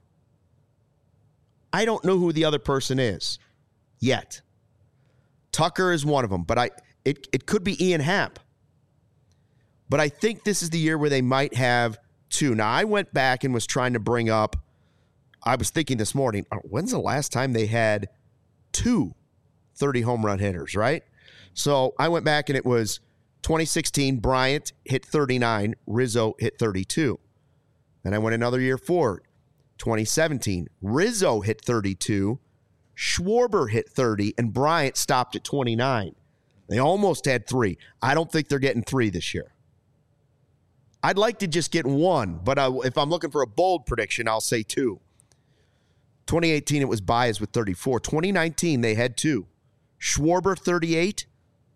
I don't know who the other person is yet. Tucker is one of them, but I it, it could be Ian Happ. But I think this is the year where they might have two. Now, I went back and was trying to bring up, I was thinking this morning, when's the last time they had two thirty home run hitters, right? So I went back and it was twenty sixteen, Bryant hit thirty-nine, Rizzo hit thirty-two. Then I went another year forward. twenty seventeen, Rizzo hit thirty-two, Schwarber hit thirty, and Bryant stopped at twenty-nine. They almost had three. I don't think they're getting three this year. I'd like to just get one, but I, if I'm looking for a bold prediction, I'll say two. twenty eighteen, it was Baez with thirty-four. twenty nineteen, they had two. Schwarber, thirty-eight.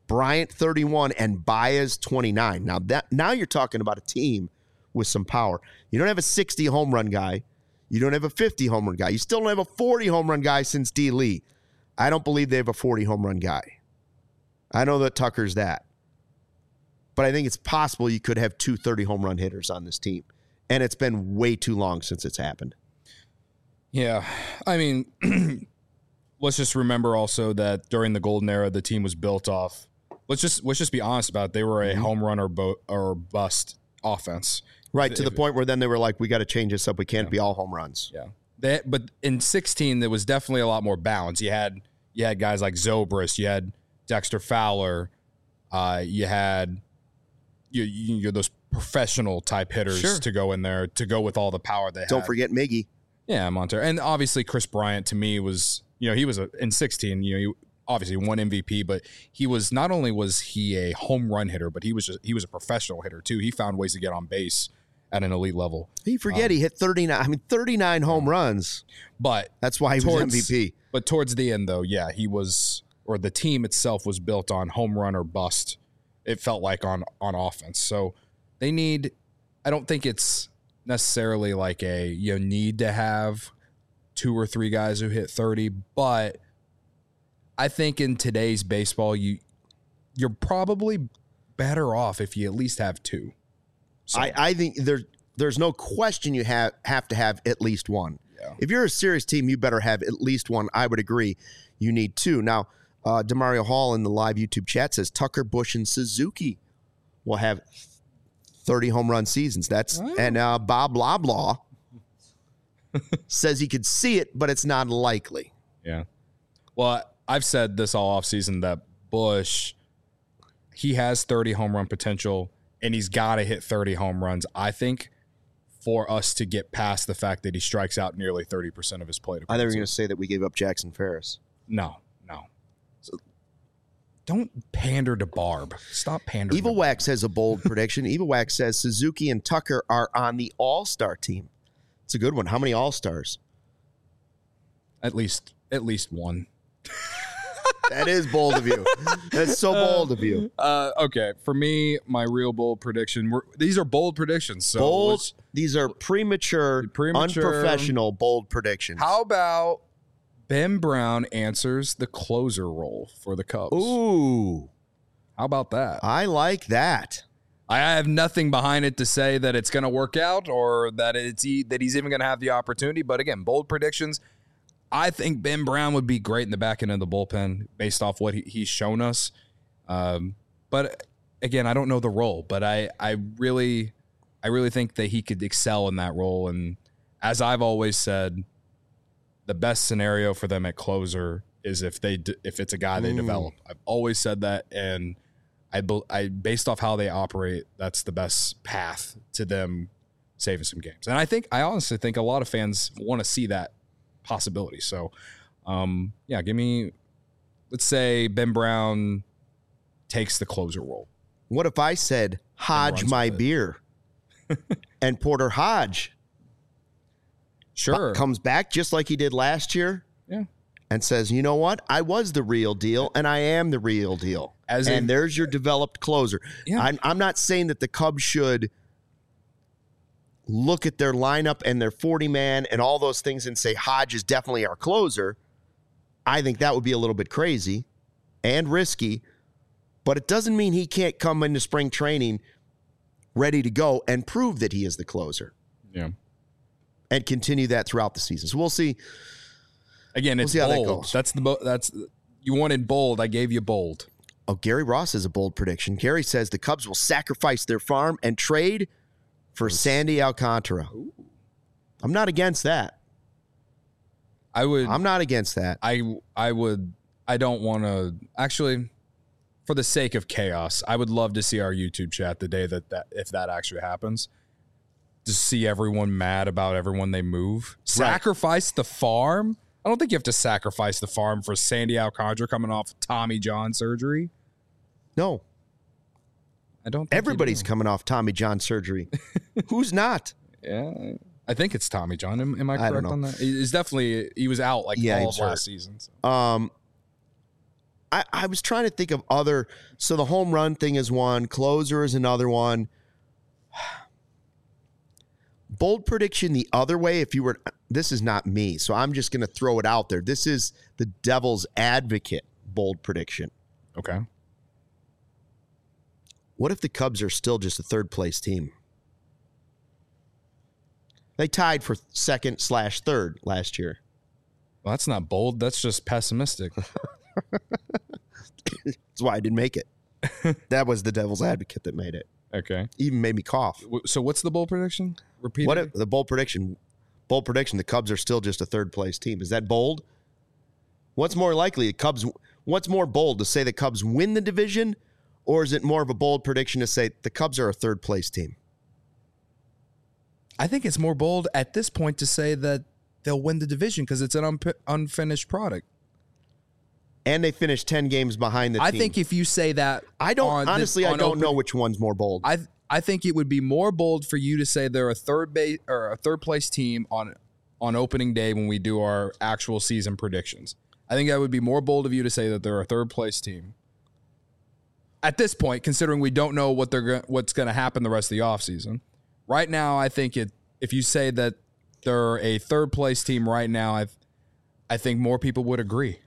Bryant thirty-one, and Baez twenty-nine. Now that now you're talking about a team with some power. You don't have a sixty home run guy. You don't have a fifty home run guy. You still don't have a forty home run guy since D. Lee. I don't believe they have a forty home run guy. I know that Tucker's that. But I think it's possible you could have two thirty home run hitters on this team. And it's been way too long since it's happened. Yeah. I mean, let's just remember also that during the golden era, the team was built off. Let's just let's just be honest about it. They were a mm-hmm. home run or, bo- or bust offense. Right, to if, the point where then they were like, we got to change this up. We can't yeah. be all home runs. Yeah. They, but in sixteen, there was definitely a lot more balance. You had you had guys like Zobrist. You had Dexter Fowler. Uh, you had you, you, you're those professional type hitters sure. to go in there to go with all the power they Don't had. forget Miggy. Yeah, Montero. And obviously Chris Bryant to me was, you know, he was a, in sixteen, you know, he obviously won M V P, but he was not only was he a home run hitter, but he was just, he was a professional hitter too. He found ways to get on base at an elite level. You forget um, he hit thirty-nine. I mean, thirty-nine home runs. But that's why he towards, was M V P. But towards the end, though, yeah, he was, or the team itself was built on home run or bust. It felt like on on offense. So they need. I don't think it's necessarily like a you know, need to have two or three guys who hit thirty, but I think in today's baseball, you you're probably better off if you at least have two. So. I, I think there's there's no question you have have to have at least one. Yeah. If you're a serious team, you better have at least one. I would agree. You need two. Now, uh, Demario Hall in the live YouTube chat says Tucker, Busch, and Suzuki will have thirty home run seasons. That's oh. and uh, Bob Loblaw says he could see it, but it's not likely. Yeah. Well, I've said this all offseason that Busch, he has thirty home run potential. And he's got to hit thirty home runs, I think, for us to get past the fact that he strikes out nearly thirty percent of his plate. I thought you were going to say that we gave up Jackson Ferris. No, no. So don't pander to Barb. Stop pandering. Evil Wax has a bold prediction. Evil Wax says Suzuki and Tucker are on the All-Star team. It's a good one. How many All-Stars? At least, at least one. That is bold of you. That's so bold of you. Uh, okay, for me, my real bold prediction. We're, these are bold predictions. So bold. These are premature, premature, unprofessional, bold predictions. How about Ben Brown answers the closer role for the Cubs? Ooh, how about that? I like that. I have nothing behind it to say that it's going to work out or that it's that he's even going to have the opportunity. But again, bold predictions. I think Ben Brown would be great in the back end of the bullpen based off what he, he's shown us. Um, but again, I don't know the role, but I, I really, I really think that he could excel in that role. And as I've always said, the best scenario for them at closer is if they, if it's a guy they mm. develop. I've always said that. And I, I, based off how they operate, that's the best path to them saving some games. And I think, I honestly think a lot of fans want to see that possibility. So, um, yeah, give me, let's say Ben Brown takes the closer role. What if I said Hodge my beer and Porter Hodge sure b- comes back just like he did last year yeah, and says, you know what? I was the real deal and I am the real deal. As and a, there's your developed closer. Yeah. I'm, I'm not saying that the Cubs should look at their lineup and their forty-man and all those things and say Hodge is definitely our closer. I think that would be a little bit crazy and risky, but it doesn't mean he can't come into spring training ready to go and prove that he is the closer. Yeah. And continue that throughout the season. So we'll see. Again, it's we'll bold. That that's the that's you wanted bold. I gave you bold. Oh, Gary Ross has a bold prediction. Gary says the Cubs will sacrifice their farm and trade for Sandy Alcantara. Ooh. I'm not against that. I would. I'm not against that. I I would. I don't want to. Actually, for the sake of chaos, I would love to see our YouTube chat the day that, that if that actually happens, to see everyone mad about everyone they move. Right. Sacrifice the farm? I don't think you have to sacrifice the farm for Sandy Alcantara coming off Tommy John surgery. No. I don't think Everybody's coming off Tommy John surgery. Who's not? Yeah, I think it's Tommy John. Am, am I correct I on that? He's definitely he was out like yeah, all of last hurt. season. So. Um, I, I was trying to think of other. So the home run thing is one. Closer is another one. Bold prediction the other way. If you were, this is not me, so I'm just going to throw it out there. This is the devil's advocate bold prediction. Okay. What if the Cubs are still just a third place team? They tied for second slash third last year. Well, that's not bold. That's just pessimistic. That's why I didn't make it. That was the devil's advocate that made it. Okay. Even made me cough. So what's the bold prediction? Repeat What it. if, the bold prediction? Bold prediction. The Cubs are still just a third place team. Is that bold? What's more likely? The Cubs. What's more bold to say the Cubs win the division, or is it more of a bold prediction to say the Cubs are a third place team? I think it's more bold at this point to say that they'll win the division because it's an un- unfinished product. And they finished ten games behind the I team. think if you say that, I don't honestly. The, I don't open, know which one's more bold. I I think it would be more bold for you to say they're a third base or a third place team on on opening day when we do our actual season predictions. I think that would be more bold of you to say that they're a third place team. At this point, considering we don't know what they're go- what's going to happen the rest of the offseason. Right now, I think it. If you say that they're a third place team right now, I I think more people would agree.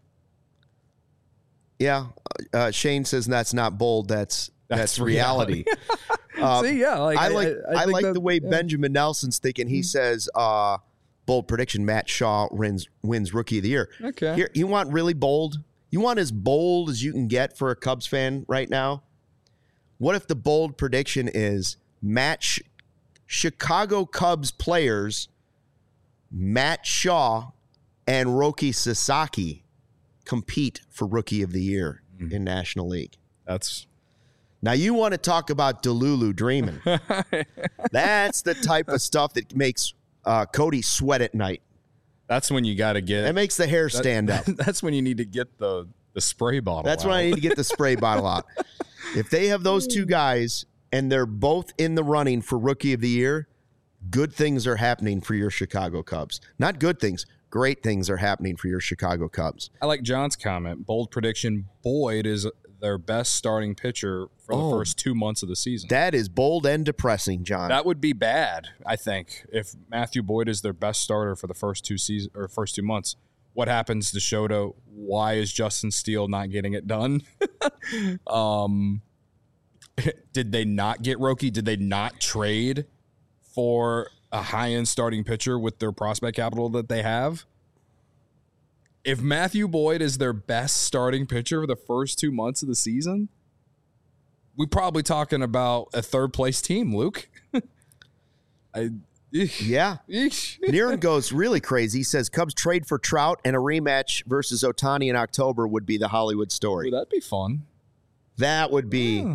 Yeah, uh, Shane says that's not bold. That's that's, That's reality. reality. uh, See, yeah, like, I like I, I, I think like that- the way yeah. Benjamin Nelson's thinking. He mm-hmm. says, uh, "Bold prediction: Matt Shaw wins wins Rookie of the Year." Okay, Here, you want really bold? You want as bold as you can get for a Cubs fan right now? What if the bold prediction is match Chicago Cubs players Matt Shaw and Roki Sasaki compete for Rookie of the Year mm. in National League? That's now you want to talk about Delulu dreaming. That's the type of stuff that makes uh, Cody sweat at night. That's when you got to get. It makes the hair stand that, up. That's when you need to get the the spray bottle. That's out. when I need to get the spray bottle out. If they have those two guys and they're both in the running for Rookie of the Year, good things are happening for your Chicago Cubs. Not good things. Great things are happening for your Chicago Cubs. I like John's comment. Bold prediction, Boyd is their best starting pitcher for Oh. the first two months of the season. That is bold and depressing, John. That would be bad, I think, if Matthew Boyd is their best starter for the first two season or first two months. What happens to Shota? Why is Justin Steele not getting it done? um, did they not get Roki? Did they not trade for a high-end starting pitcher with their prospect capital that they have? If Matthew Boyd is their best starting pitcher for the first two months of the season, we're probably talking about a third-place team, Luke. I, yeah. eesh. Niren goes really crazy. He says Cubs trade for Trout and a rematch versus Ohtani in October would be the Hollywood story. Ooh, that'd be fun. That would be Yeah.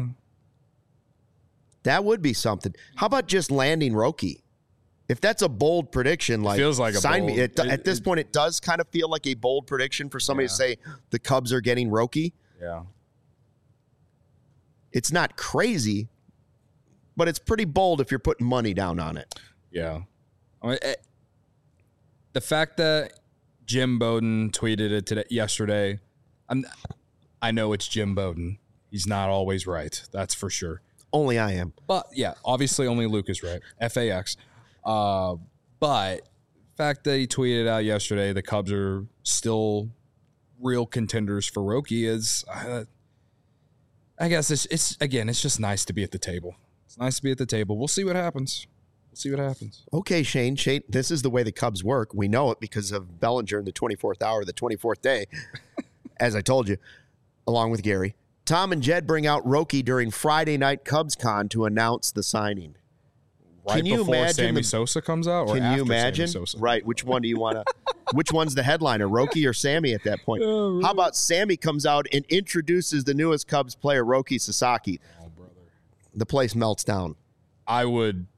that would be something. How about just landing Roki? If that's a bold prediction, like feels like a sign bold- me. It, it- at this it- point, it does kind of feel like a bold prediction for somebody Yeah. to say the Cubs are getting Roki. Yeah. It's not crazy, but it's pretty bold if you're putting money down on it. Yeah. I mean, it, the fact that Jim Bowden tweeted it today, yesterday, I'm, I know it's Jim Bowden. He's not always right. That's for sure. Only I am. But, yeah, obviously only Luke is right. F A X. Uh, but the fact that he tweeted out yesterday the Cubs are still real contenders for Roki is, uh, I guess, it's, it's again, it's just nice to be at the table. It's nice to be at the table. We'll see what happens. We'll see what happens. Okay, Shane. Shane, this is the way the Cubs work. We know it because of Bellinger in the twenty-fourth hour, the twenty-fourth day, as I told you, along with Gary. Tom and Jed bring out Roki during Friday night Cubs Con to announce the signing. Right Can you before imagine Sammy the- Sosa comes out, or Can after you imagine? Sammy Sosa? Right. Which one do you want to? Which one's the headliner, Roki or Sammy at that point? Oh, How about Sammy comes out and introduces the newest Cubs player, Roki Sasaki? Oh, brother. The place melts down. I would.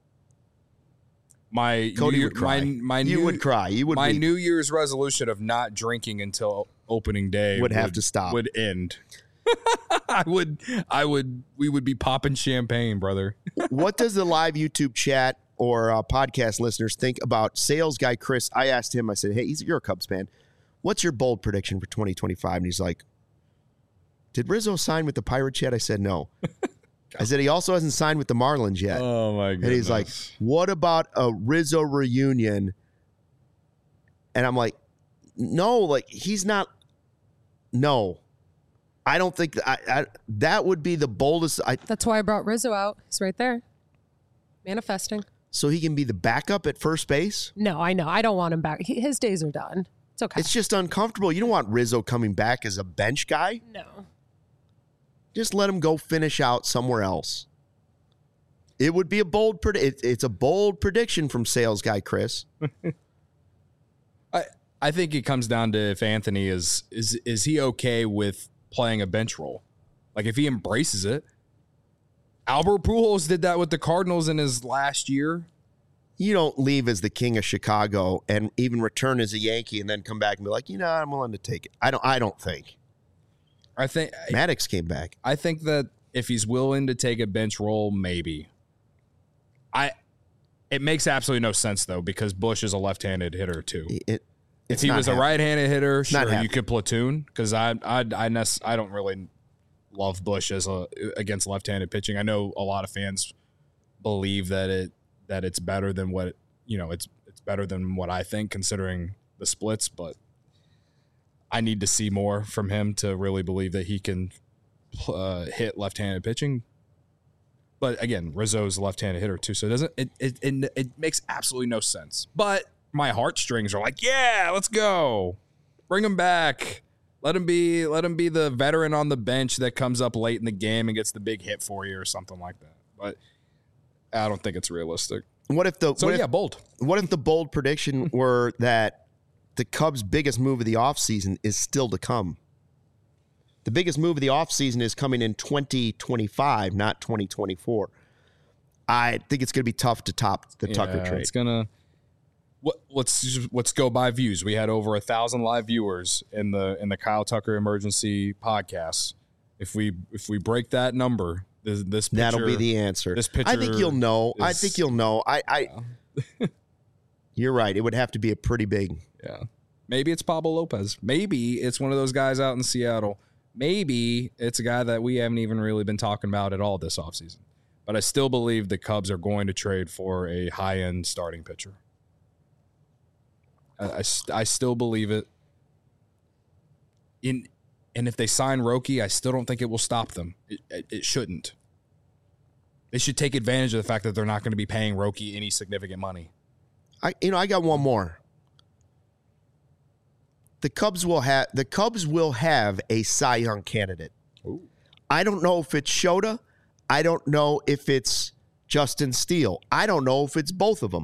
My Cody New, would cry. My, my you new, would cry. You would. My weep. New Year's resolution of not drinking until opening day Would have to stop. Would end. I would. I would. We would be popping champagne, brother. What does the live YouTube chat or uh, podcast listeners think about sales guy Chris? I asked him. I said, "Hey, he's, you're a Cubs fan. What's your bold prediction for twenty twenty-five?" And he's like, did Rizzo sign with the Pirates yet? I said, no. I said, he also hasn't signed with the Marlins yet. Oh, my goodness. And he's like, what about a Rizzo reunion? And I'm like, no, like, he's not. No. I don't think that, I, I, that would be the boldest. I, That's why I brought Rizzo out. He's right there. Manifesting. So he can be the backup at first base? No, I know. I don't want him back. He, his days are done. It's okay. It's just uncomfortable. You don't want Rizzo coming back as a bench guy. No. Just let him go finish out somewhere else. It would be a bold predi- it, It's a bold prediction from sales guy Chris. I I think it comes down to if Anthony is is is he okay with playing a bench role? Like if he embraces it. Albert Pujols did that with the Cardinals in his last year. You don't leave as the king of Chicago and even return as a Yankee and then come back and be like, you know, I'm willing to take it. I don't. I don't think. I think Maddox came back. I think that if he's willing to take a bench role, maybe. I. It makes absolutely no sense though because Bush is a left-handed hitter too. It, if he was happening. a right-handed hitter, It's not sure you happening. could platoon because I I I, nec- I don't really love Bush as a against left-handed pitching. I know a lot of fans believe that it that it's better than what you know it's it's better than what I think considering the splits, but I need to see more from him to really believe that he can uh, hit left-handed pitching. But again, Rizzo's a left-handed hitter too, so it doesn't it it it, it makes absolutely no sense. But my heartstrings are like, yeah, let's go, bring him back. Let him be. Let him be the veteran on the bench that comes up late in the game and gets the big hit for you or something like that. But I don't think it's realistic. What if the So what yeah, if, bold. What if the bold prediction were that the Cubs' biggest move of the offseason is still to come? The biggest move of the offseason is coming in twenty twenty-five, not twenty twenty-four. I think it's going to be tough to top the Tucker Yeah, trade. It's gonna. What, let's just, let's go by views. We had over a thousand live viewers in the in the Kyle Tucker Emergency podcast. If we if we break that number, this, this picture, That'll be the answer. This I think you'll know. I is- think you'll know. I. I You're right. It would have to be a pretty big. Yeah. Maybe it's Pablo Lopez. Maybe it's one of those guys out in Seattle. Maybe it's a guy that we haven't even really been talking about at all this offseason. But I still believe the Cubs are going to trade for a high-end starting pitcher. I, I, st- I still believe it. In And if they sign Roki, I still don't think it will stop them. It, it, it shouldn't. They should take advantage of the fact that they're not going to be paying Roki any significant money. I. You know. I got one more. The Cubs will have. The Cubs will have a Cy Young candidate. Ooh. I don't know if it's Shota. I don't know if it's Justin Steele. I don't know if it's both of them.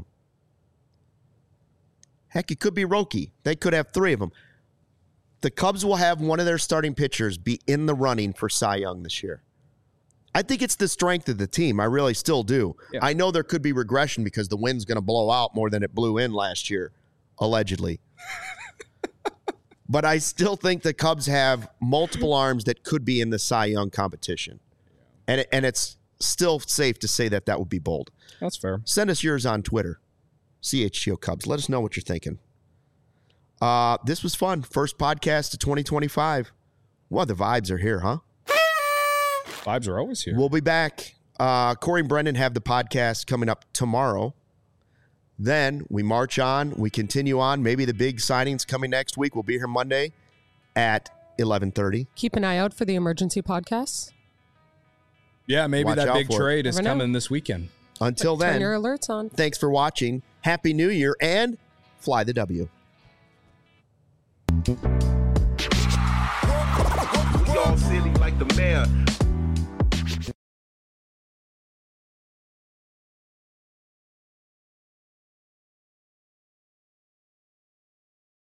Heck, it could be Roki. They could have three of them. The Cubs will have one of their starting pitchers be in the running for Cy Young this year. I think it's the strength of the team. I really still do. Yeah. I know there could be regression because the wind's going to blow out more than it blew in last year, allegedly. But I still think the Cubs have multiple arms that could be in the Cy Young competition. And it, and it's still safe to say that that would be bold. That's fair. Send us yours on Twitter, C H G O Cubs. Let us know what you're thinking. Uh, this was fun. First podcast of twenty twenty-five. Well, the vibes are here, huh? Vibes are always here. We'll be back. Uh, Corey and Brendan have the podcast coming up tomorrow. Then we march on. We continue on. Maybe the big signings coming next week. We'll be here Monday at eleven thirty. Keep an eye out for the emergency podcasts. Yeah, maybe Watch that out big for it. trade is Never know. coming this weekend. Until Turn then, your alerts on. thanks for watching. Happy New Year and fly the W. We all silly like the mayor.